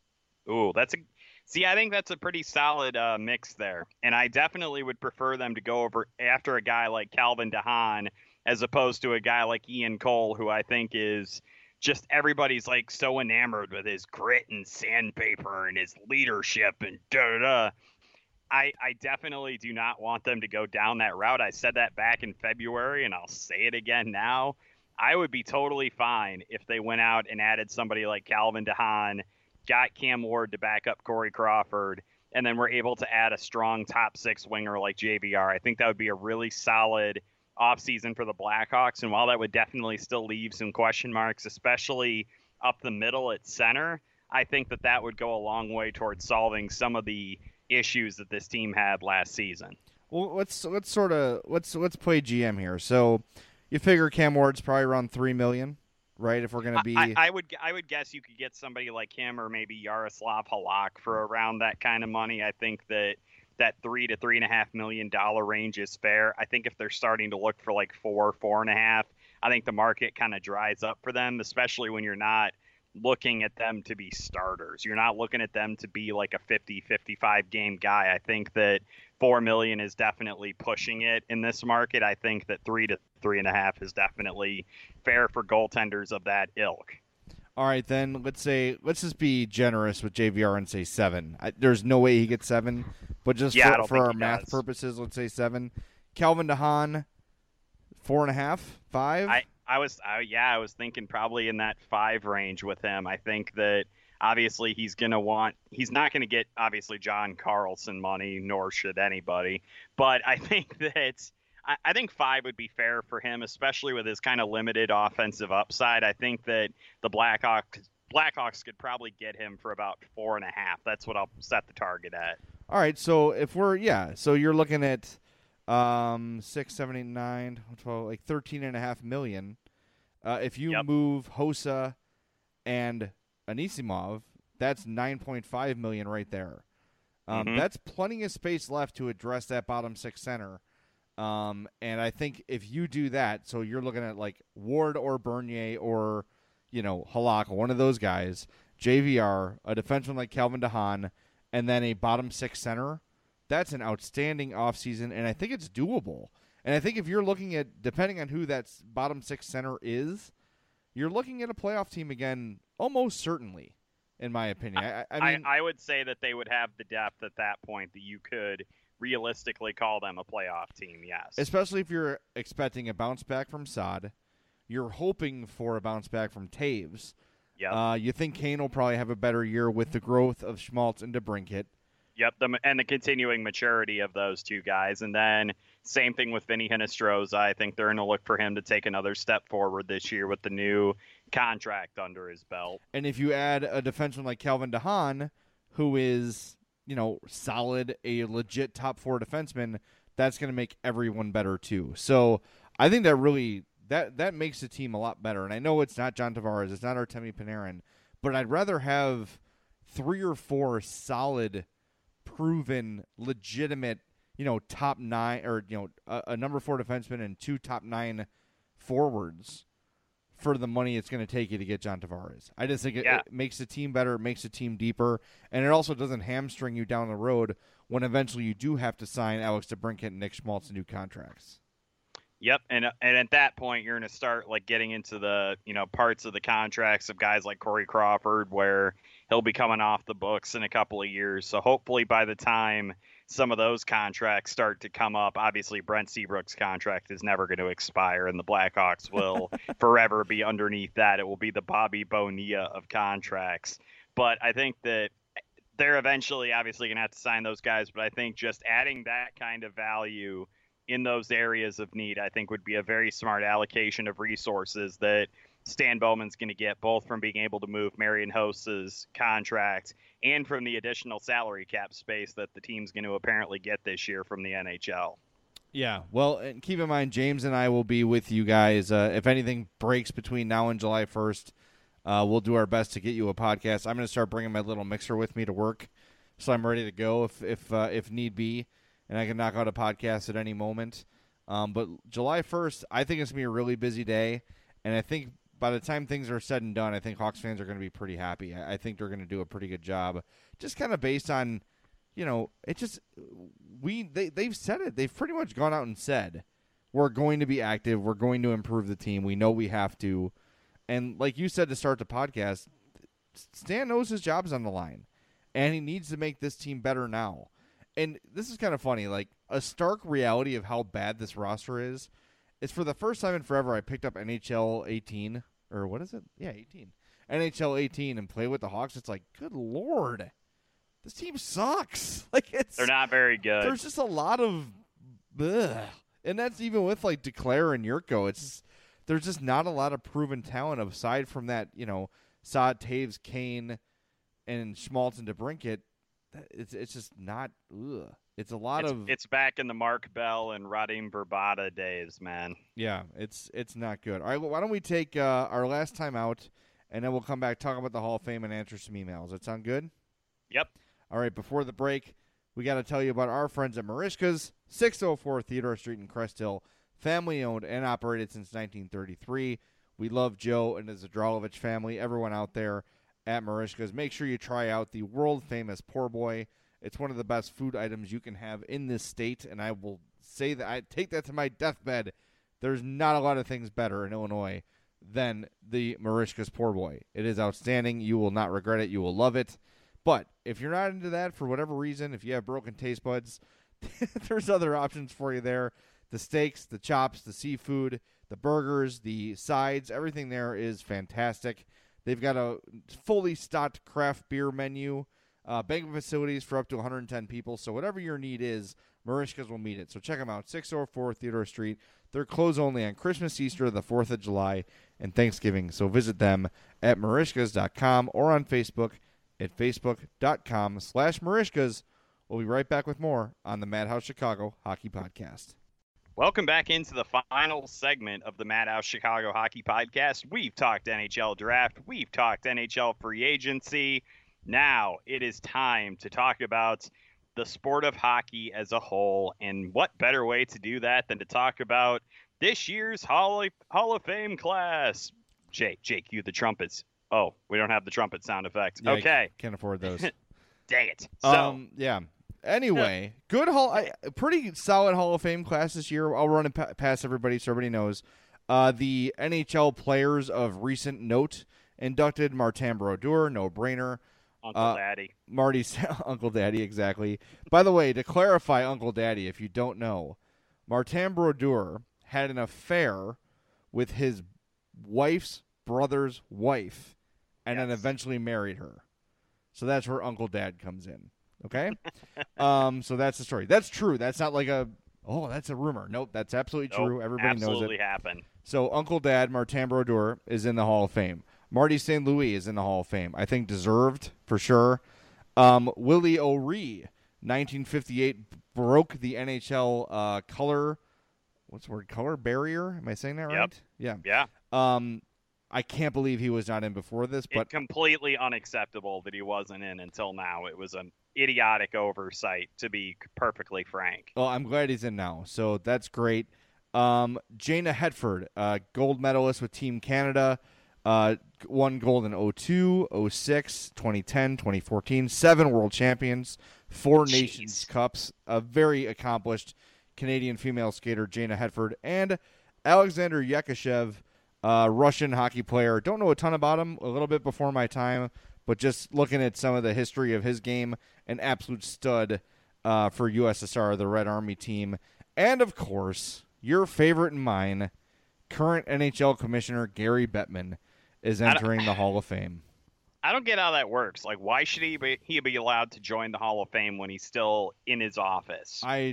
Ooh, that's a see. I think that's a pretty solid uh, mix there, and I definitely would prefer them to go over after a guy like Calvin DeHaan as opposed to a guy like Ian Cole, who I think is just everybody's like so enamored with his grit and sandpaper and his leadership and da da da. I, I definitely do not want them to go down that route. I said that back in February, and I'll say it again now. I would be totally fine if they went out and added somebody like Calvin DeHaan, got Cam Ward to back up Corey Crawford, and then were able to add a strong top six winger like J V R. I think that would be a really solid offseason for the Blackhawks, and while that would definitely still leave some question marks, especially up the middle at center, I think that that would go a long way towards solving some of the issues that this team had last season. Well, let's let's sort of let's let's play G M here. So, you figure Cam Ward's probably around three million, right? If we're gonna be, I, I would I would guess you could get somebody like him or maybe Yaroslav Halak for around that kind of money. I think that that three to three and a half million dollar range is fair. I think if they're starting to look for like four, four and a half, I think the market kind of dries up for them, especially when you're not looking at them to be starters. You're not looking at them to be like a fifty, fifty-five game guy. I think that four million is definitely pushing it in this market. I think that three to three and a half is definitely fair for goaltenders of that ilk. All right, then let's say let's just be generous with J V R and say seven. I, there's no way he gets seven, but just yeah, for, for our math does. purposes, let's say seven. Calvin DeHaan, four and a half, five. I, I was, I, yeah, I was thinking probably in that five range with him. I think that obviously he's going to want, he's not going to get obviously John Carlson money, nor should anybody. But I think that, I, I think five would be fair for him, especially with his kind of limited offensive upside. I think that the Blackhawks, Blackhawks could probably get him for about four and a half. That's what I'll set the target at. All right. So if we're, yeah, so you're looking at, Um, six, seven, eight, nine, twelve, like thirteen and a half million. Uh, if you yep. move Hossa and Anisimov, that's nine point five million right there. Um, mm-hmm. That's plenty of space left to address that bottom six center. Um, and I think if you do that, so you're looking at like Ward or Bernier or, you know, Halak, one of those guys, J V R, a defenseman like Calvin DeHaan, and then a bottom six center. That's an outstanding offseason, and I think it's doable. And I think if you're looking at, depending on who that bottom six center is, you're looking at a playoff team again, almost certainly, in my opinion. I, I mean, I, I would say that they would have the depth at that point that you could realistically call them a playoff team, yes. Especially if you're expecting a bounce back from Saad. You're hoping for a bounce back from Taves. Yep. Uh, you think Kane will probably have a better year with the growth of Schmaltz and DeBrincat. Yep, the, and the continuing maturity of those two guys. And then same thing with Vinny Hinostroza. I think they're going to look for him to take another step forward this year with the new contract under his belt. And if you add a defenseman like Calvin DeHaan, who is, you know, solid, a legit top four defenseman, that's going to make everyone better too. So I think that really that that makes the team a lot better. And I know it's not John Tavares, it's not Artemi Panarin, but I'd rather have three or four solid, proven, legitimate, you know, top nine or you know a, a number four defenseman and two top nine forwards for the money it's going to take you to get John Tavares. I just think it, yeah. it makes the team better, it makes the team deeper, and it also doesn't hamstring you down the road when eventually you do have to sign Alex DeBrincat and Nick Schmaltz to new contracts. Yep, and and at that point you're going to start like getting into the you know parts of the contracts of guys like Corey Crawford where he'll be coming off the books in a couple of years. So hopefully by the time some of those contracts start to come up, obviously Brent Seabrook's contract is never going to expire, and the Blackhawks will forever be underneath that. It will be the Bobby Bonilla of contracts. But I think that they're eventually obviously going to have to sign those guys. But I think just adding that kind of value in those areas of need, I think would be a very smart allocation of resources that Stan Bowman's going to get, both from being able to move Marian Hossa's contract and from the additional salary cap space that the team's going to apparently get this year from the N H L. Yeah, well, and keep in mind, James and I will be with you guys. Uh, if anything breaks between now and July first, uh, we'll do our best to get you a podcast. I'm going to start bringing my little mixer with me to work, so I'm ready to go if if uh, if need be, and I can knock out a podcast at any moment. Um, but July first, I think it's going to be a really busy day, and I think by the time things are said and done, I think Hawks fans are going to be pretty happy. I, I think they're going to do a pretty good job, just kind of based on, you know, it just we they they've said it. They've pretty much gone out and said we're going to be active. We're going to improve the team. We know we have to, and like you said to start the podcast, Stan knows his job's on the line, and he needs to make this team better now. And this is kind of funny, like a stark reality of how bad this roster is. It's for the first time in forever I picked up N H L eighteen, or what is it? Yeah, eighteen. N H L eighteen and play with the Hawks. It's like, good Lord, this team sucks. Like it's They're not very good. There's just a lot of, ugh. And that's even with like Declare and Yurko. It's just, there's just not a lot of proven talent aside from that, you know, Saad, Taves, Kane, and Schmaltz and DeBrincat. It's it's just not. Ugh. It's a lot it's, of. It's back in the Mark Bell and Radim Verbata days, man. Yeah, it's it's not good. All right, well, why don't we take uh, our last time out, and then we'll come back, talk about the Hall of Fame, and answer some emails. That sound good? Yep. All right, before the break, we got to tell you about our friends at Marishka's, six oh four Theodore Street in Crest Hill, family-owned and operated since nineteen thirty-three. We love Joe and the Zadralovich family, everyone out there at Marishka's. Make sure you try out the world-famous Poor Boy. It's one of the best food items you can have in this state, and I will say that I take that to my deathbed. There's not a lot of things better in Illinois than the Marishka's Poor Boy. It is outstanding. You will not regret it. You will love it. But if you're not into that for whatever reason, if you have broken taste buds, there's other options for you there. The steaks, the chops, the seafood, the burgers, the sides, everything there is fantastic. They've got a fully stocked craft beer menu. Uh, banquet facilities for up to one hundred ten people. So whatever your need is, Marishka's will meet it. So check them out, six oh four Theodore Street. They're closed only on Christmas, Easter, the fourth of July, and Thanksgiving. So visit them at marishkas dot com or on Facebook at facebook.com slash Marishkas. We'll be right back with more on the Madhouse Chicago Hockey Podcast. Welcome back into the final segment of the Madhouse Chicago Hockey Podcast. We've talked N H L draft. We've talked N H L free agency. Now it is time to talk about the sport of hockey as a whole, and what better way to do that than to talk about this year's Hall of, Hall of Fame class. Jake, Jake, you the trumpets. Oh, we don't have the trumpet sound effect. Yeah, okay. Can't afford those. Dang it. So, um, yeah. Anyway, good Hall, I, pretty solid Hall of Fame class this year. I'll run it pa- past everybody so everybody knows. Uh, the N H L players of recent note inducted: Martin Brodeur, no-brainer. Uncle uh, Daddy. Marty's Uncle Daddy, exactly. By the way, to clarify Uncle Daddy, if you don't know, Martin Brodeur had an affair with his wife's brother's wife and yes. then eventually married her. So that's where Uncle Dad comes in. Okay? um, so that's the story. That's true. That's not like a, oh, that's a rumor. Nope, that's absolutely nope, true. Everybody knows it. Absolutely happened. So Uncle Dad, Martin Brodeur, is in the Hall of Fame. Marty Saint Louis is in the Hall of Fame. I think deserved, for sure. Um, Willie O'Ree, nineteen fifty-eight, broke the N H L uh, color, what's the word, color barrier? Am I saying that Yep. right? Yeah. Yeah. Um, I can't believe he was not in before this, but It's completely unacceptable that he wasn't in until now. It was an idiotic oversight, to be perfectly frank. well, I'm glad he's in now, so that's great. Um, Jana Hetford, uh, gold medalist with Team Canada, uh, won gold in oh two, oh six, twenty ten, twenty fourteen, seven world champions, four Jeez. Nations Cups, a very accomplished Canadian female skater, Jana Hetford, and Alexander Yakashev, uh, Russian hockey player. Don't know a ton about him, a little bit before my time, but just looking at some of the history of his game, an absolute stud uh, for U S S R, the Red Army team. And, of course, your favorite and mine, current N H L Commissioner Gary Bettman, is entering the Hall of Fame. I don't get how that works. Like, why should he be, he be allowed to join the Hall of Fame when he's still in his office? I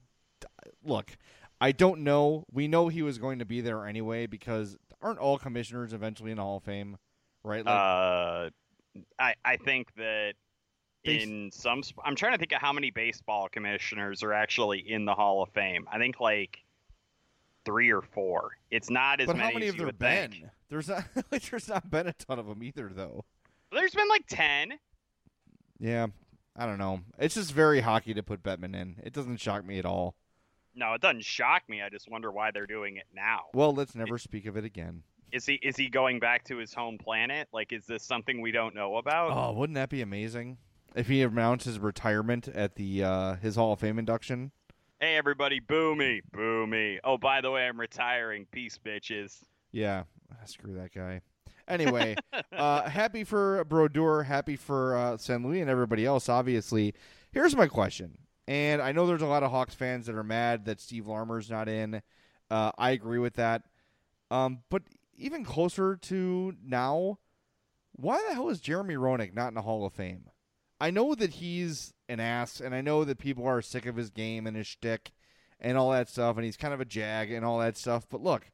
look, I don't know. We know he was going to be there anyway because aren't all commissioners eventually in the Hall of Fame, right? Like, uh, I I think that They- in some, sp- I'm trying to think of how many baseball commissioners are actually in the Hall of Fame. I think like three or four. It's not as but many how many as have you there would been? think. There's not. Like, there's not been a ton of them either, though. There's been like ten. Yeah, I don't know. It's just very hockey to put Bettman in. It doesn't shock me at all. No, it doesn't shock me. I just wonder why they're doing it now. Well, let's never speak of it again. Is he is he going back to his home planet? Like, is this something we don't know about? Oh, wouldn't that be amazing if he announced his retirement at the uh, his Hall of Fame induction? Hey, everybody, boo me, boo me. Oh, by the way, I'm retiring. Peace, bitches. Yeah, screw that guy. Anyway, uh, happy for Brodeur, happy for uh, Saint Louis and everybody else, obviously. Here's my question, and I know there's a lot of Hawks fans that are mad that Steve Larmer's not in. Uh, I agree with that. Um, but even closer to now, why the hell is Jeremy Roenick not in the Hall of Fame? I know that he's an ass, and I know that people are sick of his game and his shtick and all that stuff, and he's kind of a jag and all that stuff. But look,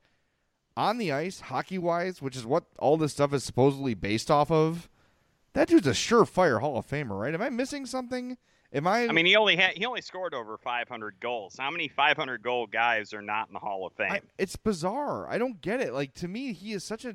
on the ice, hockey-wise, which is what all this stuff is supposedly based off of, that dude's a surefire Hall of Famer, right? Am I missing something? Am I? I mean, he only had he only scored over five hundred goals. How many five hundred goal guys are not in the Hall of Fame? I, it's bizarre. I don't get it. Like, to me, he is such a.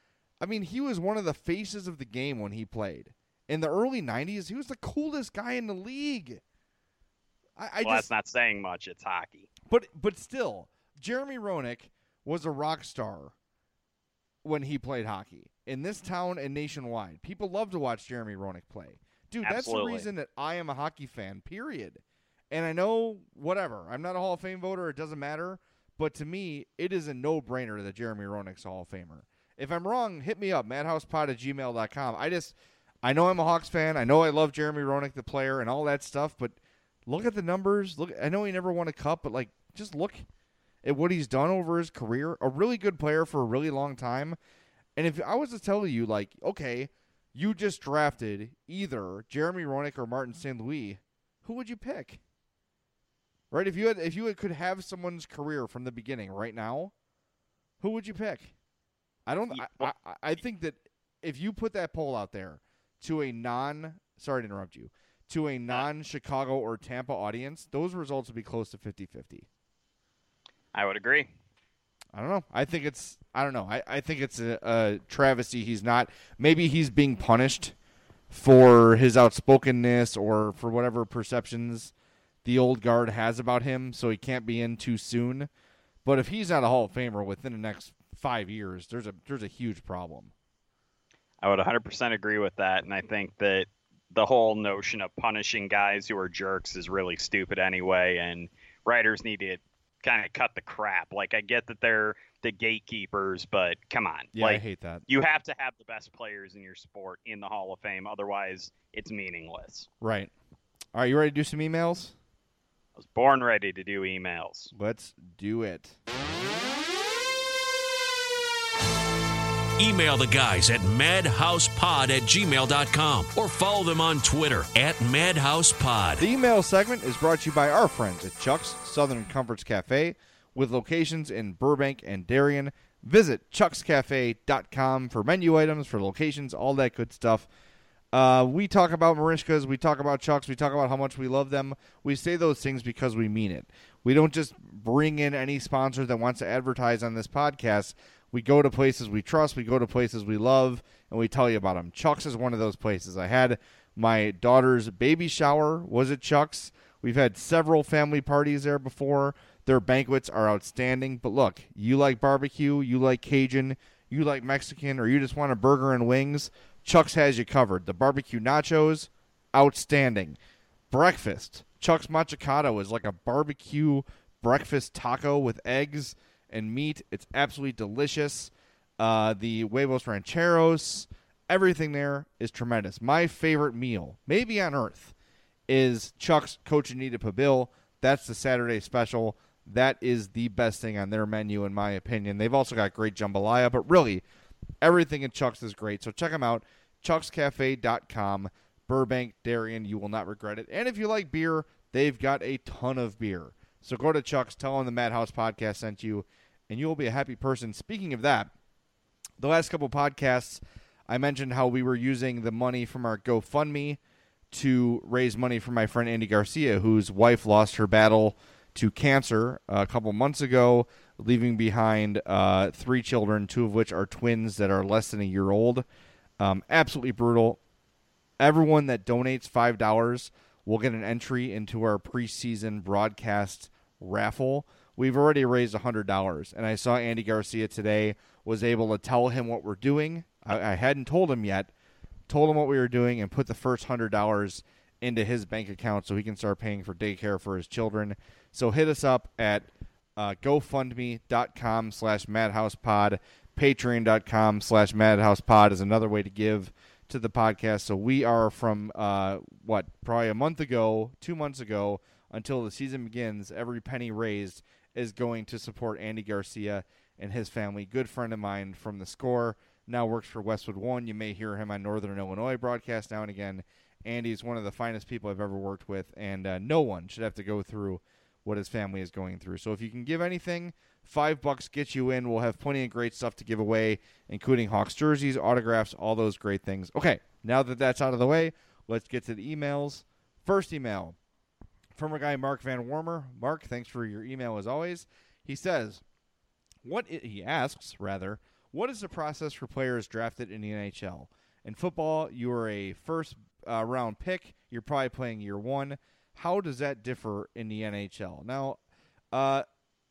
I mean, he was one of the faces of the game when he played. In the early nineties, he was the coolest guy in the league. I, I well, just, that's not saying much. It's hockey. But but still, Jeremy Roenick was a rock star when he played hockey in this town and nationwide. People love to watch Jeremy Roenick play. Dude, Absolutely. that's the reason that I am a hockey fan, period. And I know, whatever, I'm not a Hall of Fame voter. It doesn't matter. But to me, it is a no-brainer that Jeremy Roenick's a Hall of Famer. If I'm wrong, hit me up, madhousepod at gmail dot com. I just, I know I'm a Hawks fan. I know I love Jeremy Roenick, the player, and all that stuff. But look at the numbers. Look, I know he never won a cup, but, like, just look at what he's done over his career. A really good player for a really long time. And if I was to tell you, like, okay, you just drafted either Jeremy Roenick or Martin Saint Louis, who would you pick? Right? If you had, if you had, could have someone's career from the beginning right now, who would you pick? I don't. I, I, I think that if you put that poll out there to a non, sorry to interrupt you, to a non-Chicago or Tampa audience, those results would be close to fifty-fifty. I would agree. I don't know. I think it's. I don't know. I, I think it's a, a travesty. He's not. Maybe he's being punished for his outspokenness or for whatever perceptions the old guard has about him, so he can't be in too soon. But if he's not a Hall of Famer within the next five years, there's a there's a huge problem. I would one hundred percent agree with that, and I think that the whole notion of punishing guys who are jerks is really stupid anyway, and writers need to kind of cut the crap. Like, I get that they're the gatekeepers, but come on. Yeah, like, I hate that. You have to have the best players in your sport in the Hall of Fame, otherwise it's meaningless. Right. All right, you ready to do some emails? I was born ready to do emails. Let's do it. Email the guys at madhousepod at gmail dot com or follow them on Twitter at madhousepod. The email segment is brought to you by our friends at Chuck's Southern Comforts Cafe with locations in Burbank and Darien. Visit chucks cafe dot com for menu items, for locations, all that good stuff. Uh, we talk about Marishkas, we talk about Chucks, we talk about how much we love them. We say those things because we mean it. We don't just bring in any sponsor that wants to advertise on this podcast. We go to places we trust, we go to places we love, and we tell you about them. Chucks is one of those places. I had my daughter's baby shower was at Chucks. We've had several family parties there before. Their banquets are outstanding. But look, you like barbecue, you like Cajun, you like Mexican, or you just want a burger and wings, Chuck's has you covered. The barbecue nachos, outstanding. Breakfast, Chuck's Machacado is like a barbecue breakfast taco with eggs and meat. It's absolutely delicious. Uh, the huevos rancheros, everything there is tremendous. My favorite meal, maybe on earth, is Chuck's Cochinita Pibil. That's the Saturday special. That is the best thing on their menu, in my opinion. They've also got great jambalaya, but really, everything at Chuck's is great. So check them out, chucks cafe dot com, Burbank, Darien. You will not regret it. And if you like beer, they've got a ton of beer. So go to Chuck's, tell them the Madhouse Podcast sent you, and you will be a happy person. Speaking of that, the last couple podcasts, I mentioned how we were using the money from our GoFundMe to raise money for my friend Andy Garcia, whose wife lost her battle to cancer a couple months ago, leaving behind uh, three children, two of which are twins that are less than a year old. Um, absolutely brutal. Everyone that donates five dollars will get an entry into our preseason broadcast raffle. We've already raised one hundred dollars, and I saw Andy Garcia today, was able to tell him what we're doing. I, I hadn't told him yet, told him what we were doing, and put the first one hundred dollars into his bank account so he can start paying for daycare for his children. So hit us up at uh, GoFundMe.com slash MadhousePod. Patreon.com slash MadhousePod is another way to give to the podcast. So we are from, uh, what, probably a month ago, two months ago, until the season begins, every penny raised is going to support Andy Garcia and his family. Good friend of mine from The Score, now works for Westwood One. You may hear him on Northern Illinois broadcast now and again. Andy's one of the finest people I've ever worked with, and uh, no one should have to go through what his family is going through. So if you can give anything, five bucks gets you in. We'll have plenty of great stuff to give away, including Hawks jerseys, autographs, all those great things. Okay, now that that's out of the way, let's get to the emails. First email from our guy Mark Van Warmer. Mark, thanks for your email as always. He says, "What I-, he asks rather, what is the process for players drafted in the N H L? In football, you are a first uh, round pick. You're probably playing year one. How does that differ in the N H L?" Now, uh,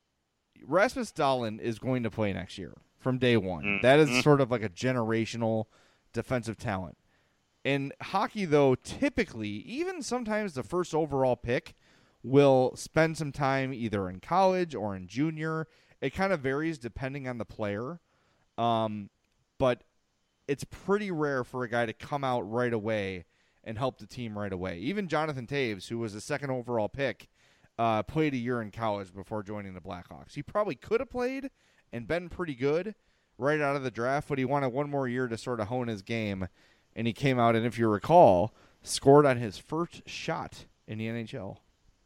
Rasmus Dahlin is going to play next year from day one. Mm-hmm. That is sort of like a generational defensive talent. In hockey, though, typically, even sometimes the first overall pick will spend some time either in college or in junior. It kind of varies depending on the player. Um, but it's pretty rare for a guy to come out right away and help the team right away. Even Jonathan Toews, who was the second overall pick, uh, played a year in college before joining the Blackhawks. He probably could have played and been pretty good right out of the draft, but he wanted one more year to sort of hone his game, and he came out and, if you recall, scored on his first shot in the N H L.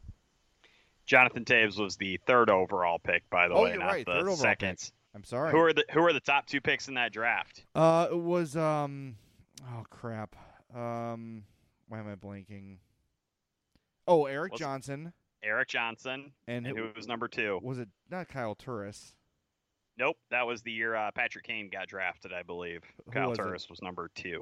Jonathan Toews was the third overall pick, by the oh, way, you're not right. the third overall second. Pick. I'm sorry. Who are the Who are the top two picks in that draft? Uh, it was um, oh crap. Um, why am I blanking? Oh, Eric What's, Johnson. Eric Johnson. And, and who, who was number two? Was it not Kyle Turris? Nope, that was the year uh, Patrick Kane got drafted, I believe. Who Kyle was Turris it? was number two.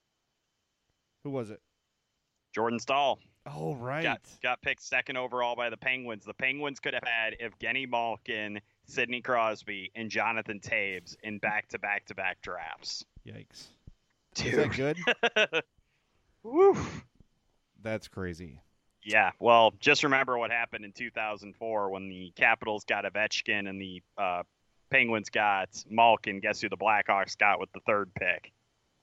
Who was it? Jordan Staal. Oh, right. Got, got picked second overall by the Penguins. The Penguins could have had Evgeny Malkin, Sidney Crosby, and Jonathan Toews in back-to-back-to-back drafts. Yikes. Dude. Is that good? Woo. That's crazy. Yeah, well, just remember what happened in two thousand four when the Capitals got Ovechkin and the uh, Penguins got Malkin. Guess who the Blackhawks got with the third pick?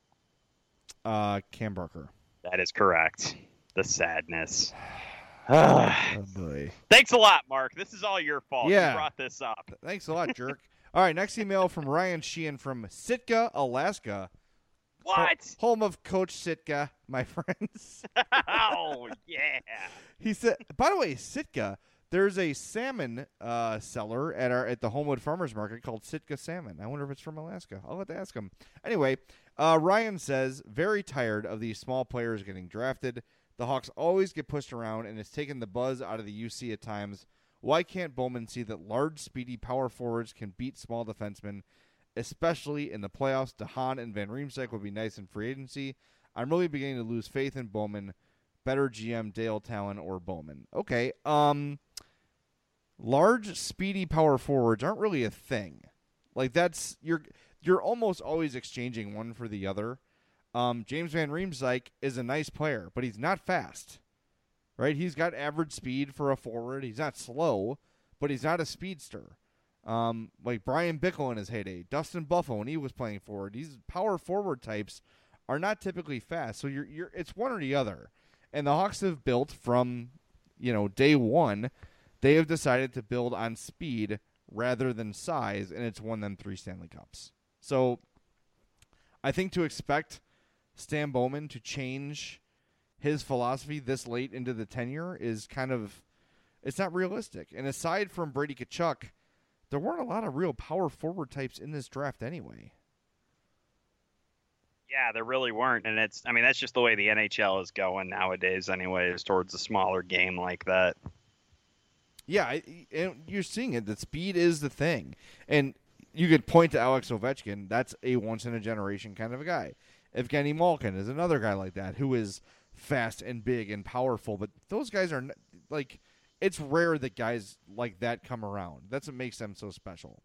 Uh, Cam Barker. That is correct. The sadness. Oh, boy. Thanks a lot, Mark. This is all your fault. Yeah. You brought this up. Thanks a lot, jerk. All right, next email from Ryan Sheehan from Sitka, Alaska. What? Home of Coach Sitka, my friends. Oh, yeah. He said, by the way, Sitka, There's a salmon uh, seller at our at the Homewood Farmers Market called Sitka Salmon. I wonder if it's from Alaska. I'll have to ask him. Anyway, uh, Ryan says, very tired of these small players getting drafted. The Hawks always get pushed around, and it's taken the buzz out of the U C at times. Why can't Bowman see that large, speedy power forwards can beat small defensemen, especially in the playoffs? DeHaan and Van Riemsdyk would be nice in free agency. I'm really beginning to lose faith in Bowman. Better G M, Dale Talon or Bowman. Okay, um... large, speedy power forwards aren't really a thing. Like that's you're you're almost always exchanging one for the other. Um, James Van Riemsdyk is a nice player, but he's not fast, right? He's got average speed for a forward. He's not slow, but he's not a speedster. Um, like Brian Bickle in his heyday, Dustin Buffo when he was playing forward. These power forward types are not typically fast, so you're you're it's one or the other. And the Hawks have built from, you know, day one. They have decided to build on speed rather than size, and it's won them three Stanley Cups. So I think to expect Stan Bowman to change his philosophy this late into the tenure is kind of – it's not realistic. And aside from Brady Tkachuk, there weren't a lot of real power forward types in this draft anyway. Yeah, there really weren't, and it's – I mean, that's just the way the N H L is going nowadays anyways, towards a smaller game like that. Yeah, I, and you're seeing it. That speed is the thing. And you could point to Alex Ovechkin. That's a once-in-a-generation kind of a guy. Evgeny Malkin is another guy like that who is fast and big and powerful. But those guys are, like, it's rare that guys like that come around. That's what makes them so special.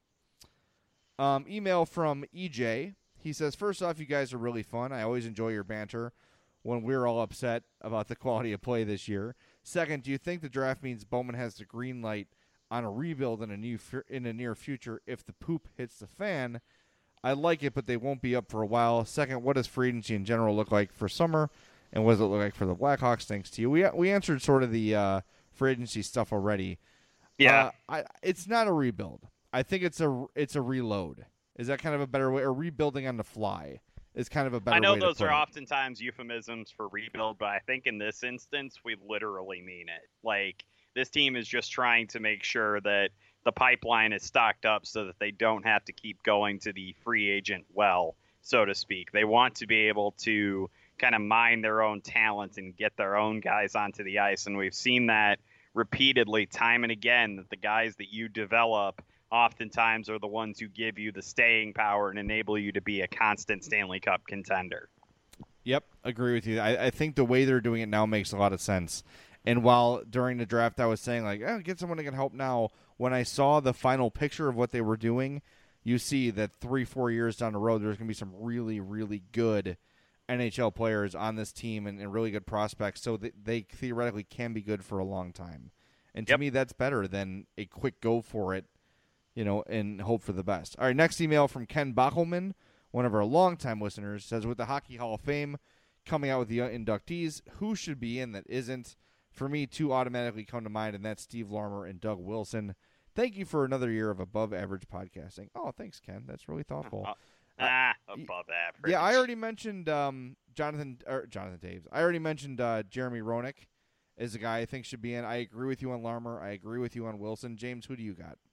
Um, email from E J. He says, first off, you guys are really fun. I always enjoy your banter when we're all upset about the quality of play this year. Second, do you think the draft means Bowman has the green light on a rebuild in a new in a near future if the poop hits the fan? I like it, but they won't be up for a while. Second, what does free agency in general look like for summer, and what does it look like for the Blackhawks? Thanks to you. We we answered sort of the uh, free agency stuff already. Yeah, uh, I, it's not a rebuild. I think it's a it's a reload. Is that kind of a better way? Or rebuilding on the fly is kind of a better way. I know way those to put are it. oftentimes euphemisms for rebuild, but I think in this instance, we literally mean it. Like, this team is just trying to make sure that the pipeline is stocked up so that they don't have to keep going to the free agent well, so to speak. They want to be able to kind of mine their own talent and get their own guys onto the ice, and we've seen that repeatedly, time and again, that the guys that you develop oftentimes are the ones who give you the staying power and enable you to be a constant Stanley Cup contender. Yep, agree with you. I, I think the way they're doing it now makes a lot of sense. And while during the draft I was saying, like, oh, get someone that can help now, when I saw the final picture of what they were doing, you see that three, four years down the road, there's going to be some really, really good N H L players on this team and, and really good prospects, so that they theoretically can be good for a long time. And to Yep. me, that's better than a quick go for it, you know, and hope for the best. All right, next email from Ken Bachelman, one of our longtime listeners, says, with the Hockey Hall of Fame coming out with the inductees, who should be in that isn't? For me, two automatically come to mind, and that's Steve Larmer and Doug Wilson. Thank you for another year of above-average podcasting. Oh, thanks, Ken. That's really thoughtful. Uh, ah, above average. Yeah, I already mentioned um, Jonathan or Jonathan Taves. I already mentioned uh, Jeremy Roenick is a guy I think should be in. I agree with you on Larmer. I agree with you on Wilson. James, who do you got?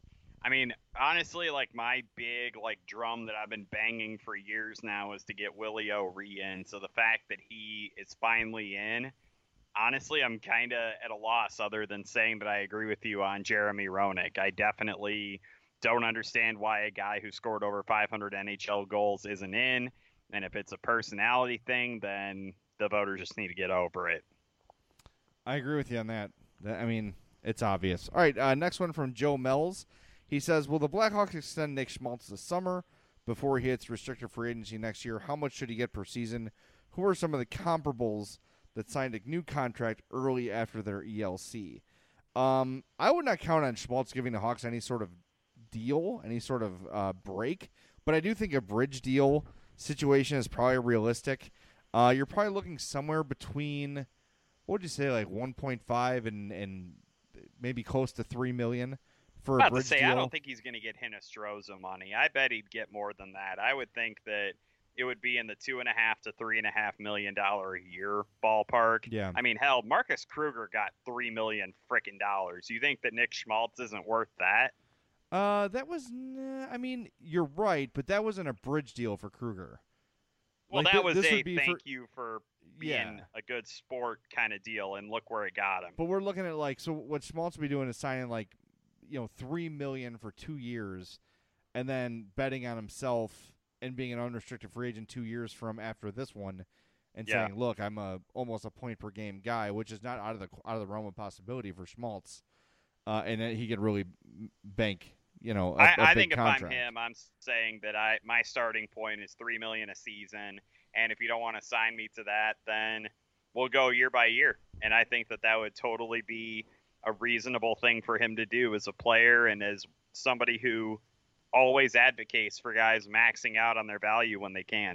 I mean, honestly, like, my big, like, drum that I've been banging for years now is to get Willie O'Ree in. So the fact that he is finally in, honestly, I'm kind of at a loss other than saying that I agree with you on Jeremy Roenick. I definitely don't understand why a guy who scored over five hundred N H L goals isn't in. And if it's a personality thing, then the voters just need to get over it. I agree with you on that. I mean, it's obvious. All right, uh, next one from Joe Mells. He says, will the Blackhawks extend Nick Schmaltz this summer before he hits restricted free agency next year? How much should he get per season? Who are some of the comparables that signed a new contract early after their E L C? Um, I would not count on Schmaltz giving the Hawks any sort of deal, any sort of uh, break, but I do think a bridge deal situation is probably realistic. Uh, you're probably looking somewhere between, what would you say, like one point five and, and maybe close to three million dollars for I'm a about bridge to say, deal. I don't think he's going to get Hinostroza money. I bet he'd get more than that. I would think that it would be in the two and a half to three and a half million dollar a year ballpark. Yeah. I mean, hell, Marcus Kruger got three million freaking dollars. You think that Nick Schmaltz isn't worth that? Uh, that was. Nah, I mean, you're right, but that wasn't a bridge deal for Kruger. Well, Like, that th- was this a would be thank for- you for being Yeah. a good sport kind of deal, and look where it got him. But we're looking at like so what Schmaltz will be doing is signing like, you know, three million for two years, and then betting on himself and being an unrestricted free agent two years from after this one, and Yeah. saying, look, I'm a almost a point per game guy, which is not out of the out of the realm of possibility for Schmaltz, uh, and then he could really bank. You know, a, I, a I big think if contract. I'm him, I'm saying that I my starting point is three million a season, and if you don't want to sign me to that, then we'll go year by year. And I think that that would totally be a reasonable thing for him to do as a player and as somebody who always advocates for guys maxing out on their value when they can.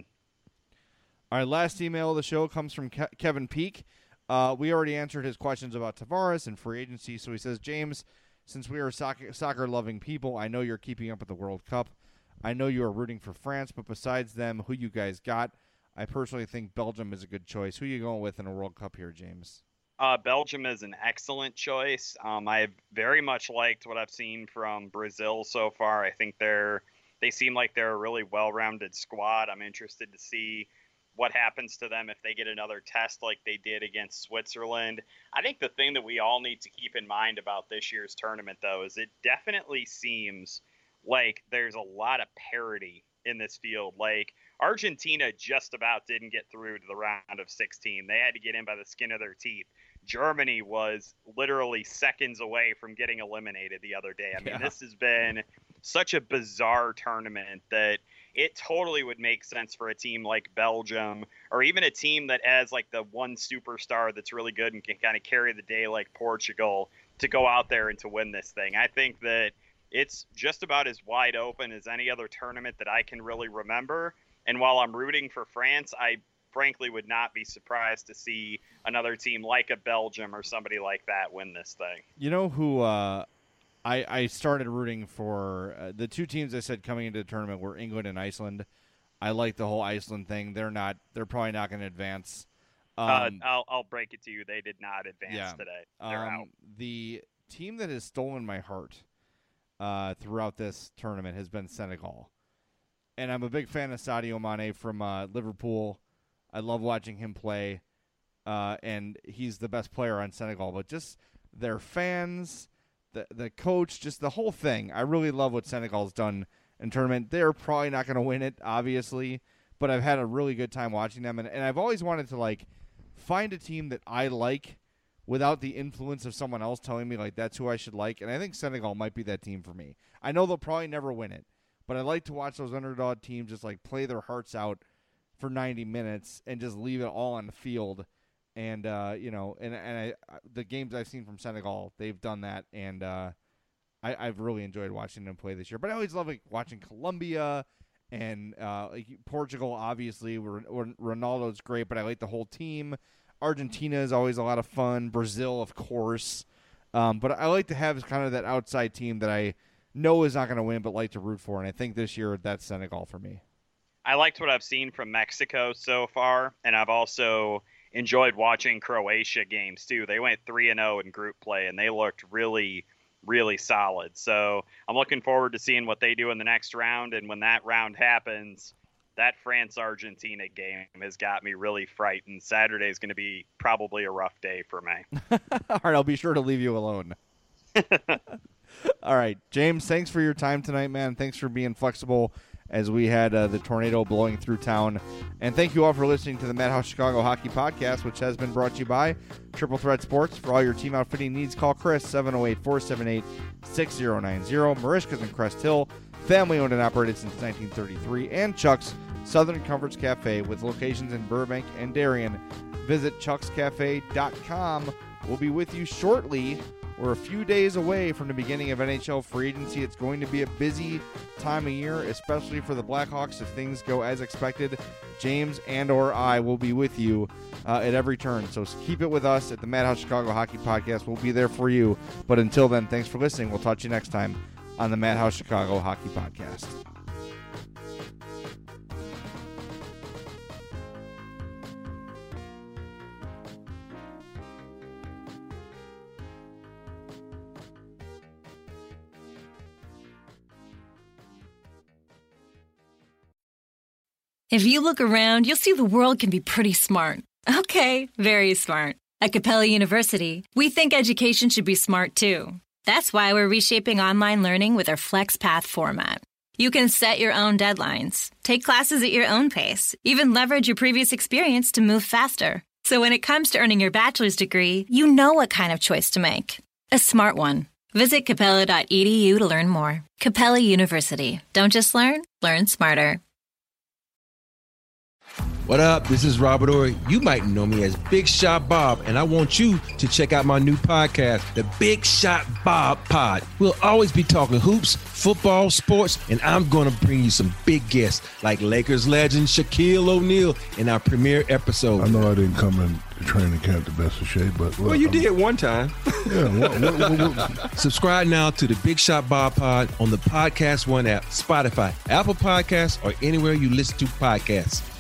All right, last email of the show comes from Ke- Kevin Peak. Uh, we already answered his questions about Tavares and free agency, so he says, James, since we are soccer, soccer-loving people, I know you're keeping up with the World Cup. I know you are rooting for France, but besides them, who you guys got? I personally think Belgium is a good choice. Who are you going with in a World Cup here, James? Uh, Belgium is an excellent choice. Um, I've very much liked what I've seen from Brazil so far. I think they're they seem like they're a really well-rounded squad. I'm interested to see what happens to them if they get another test like they did against Switzerland. I think the thing that we all need to keep in mind about this year's tournament, though, is it definitely seems like there's a lot of parity in this field. Like, Argentina just about didn't get through to the round of sixteen. They had to get in by the skin of their teeth. Germany was literally seconds away from getting eliminated the other day. I mean, Yeah. this has been such a bizarre tournament that it totally would make sense for a team like Belgium, or even a team that has like the one superstar that's really good and can kind of carry the day like Portugal, to go out there and to win this thing. I think that it's just about as wide open as any other tournament that I can really remember. And while I'm rooting for France, I frankly would not be surprised to see another team like a Belgium or somebody like that win this thing. You know who uh, I, I started rooting for? Uh, the two teams I said coming into the tournament were England and Iceland. I like the whole Iceland thing. They're not. They're probably not going to advance. Um, uh, I'll, I'll break it to you. They did not advance yeah. today. They're um, out. The team that has stolen my heart uh, throughout this tournament has been Senegal. And I'm a big fan of Sadio Mane from uh, Liverpool. I love watching him play, uh, and he's the best player on Senegal. But just their fans, the the coach, just the whole thing. I really love what Senegal's done in tournament. They're probably not going to win it, obviously, but I've had a really good time watching them. And, and I've always wanted to, like, find a team that I like without the influence of someone else telling me, like, that's who I should like. And I think Senegal might be that team for me. I know they'll probably never win it, but I like to watch those underdog teams just, like, play their hearts out for ninety minutes and just leave it all on the field. And, uh, you know, and, and I, the games I've seen from Senegal, they've done that. And uh, I, I've really enjoyed watching them play this year. But I always love, like, watching Colombia and uh, like Portugal, obviously. Where, where Ronaldo's great, but I like the whole team. Argentina is always a lot of fun. Brazil, of course. Um, but I like to have kind of that outside team that I know is not going to win, but like to root for. And I think this year that's Senegal for me. I liked what I've seen from Mexico so far, and I've also enjoyed watching Croatia games too. They went three and oh in group play, and they looked really, really solid. So I'm looking forward to seeing what they do in the next round. And when that round happens, that France-Argentina game has got me really frightened. Saturday is going to be probably a rough day for me. All right, I'll be sure to leave you alone. All right, James, thanks for your time tonight, man. Thanks for being flexible as we had uh, the tornado blowing through town. And thank you all for listening to the Madhouse Chicago Hockey Podcast, which has been brought to you by Triple Threat Sports. For all your team outfitting needs, call Chris, seven oh eight, four seven eight, six oh nine oh. Marishka's in Crest Hill, family-owned and operated since nineteen thirty-three. And Chuck's Southern Comforts Cafe with locations in Burbank and Darien. Visit chucks cafe dot com. We'll be with you shortly. We're a few days away from the beginning of N H L free agency. It's going to be a busy time of year, especially for the Blackhawks if things go as expected. James and or I will be with you uh, at every turn. So keep it with us at the Madhouse Chicago Hockey Podcast. We'll be there for you. But until then, thanks for listening. We'll talk to you next time on the Madhouse Chicago Hockey Podcast. If you look around, you'll see the world can be pretty smart. Okay, very smart. At Capella University, we think education should be smart too. That's why we're reshaping online learning with our FlexPath format. You can set your own deadlines, take classes at your own pace, even leverage your previous experience to move faster. So when it comes to earning your bachelor's degree, you know what kind of choice to make. A smart one. Visit capella dot e d u to learn more. Capella University. Don't just learn, learn smarter. What up? This is Robert Ory. You might know me as Big Shot Bob, and I want you to check out my new podcast, The Big Shot Bob Pod. We'll always be talking hoops, football, sports, and I'm going to bring you some big guests like Lakers legend Shaquille O'Neal in our premiere episode. I know I didn't come in training camp the best of shape, but well, well you I'm, did one time. Yeah. What, what, what, what? Subscribe now to the Big Shot Bob Pod on the Podcast One app, Spotify, Apple Podcasts, or anywhere you listen to podcasts.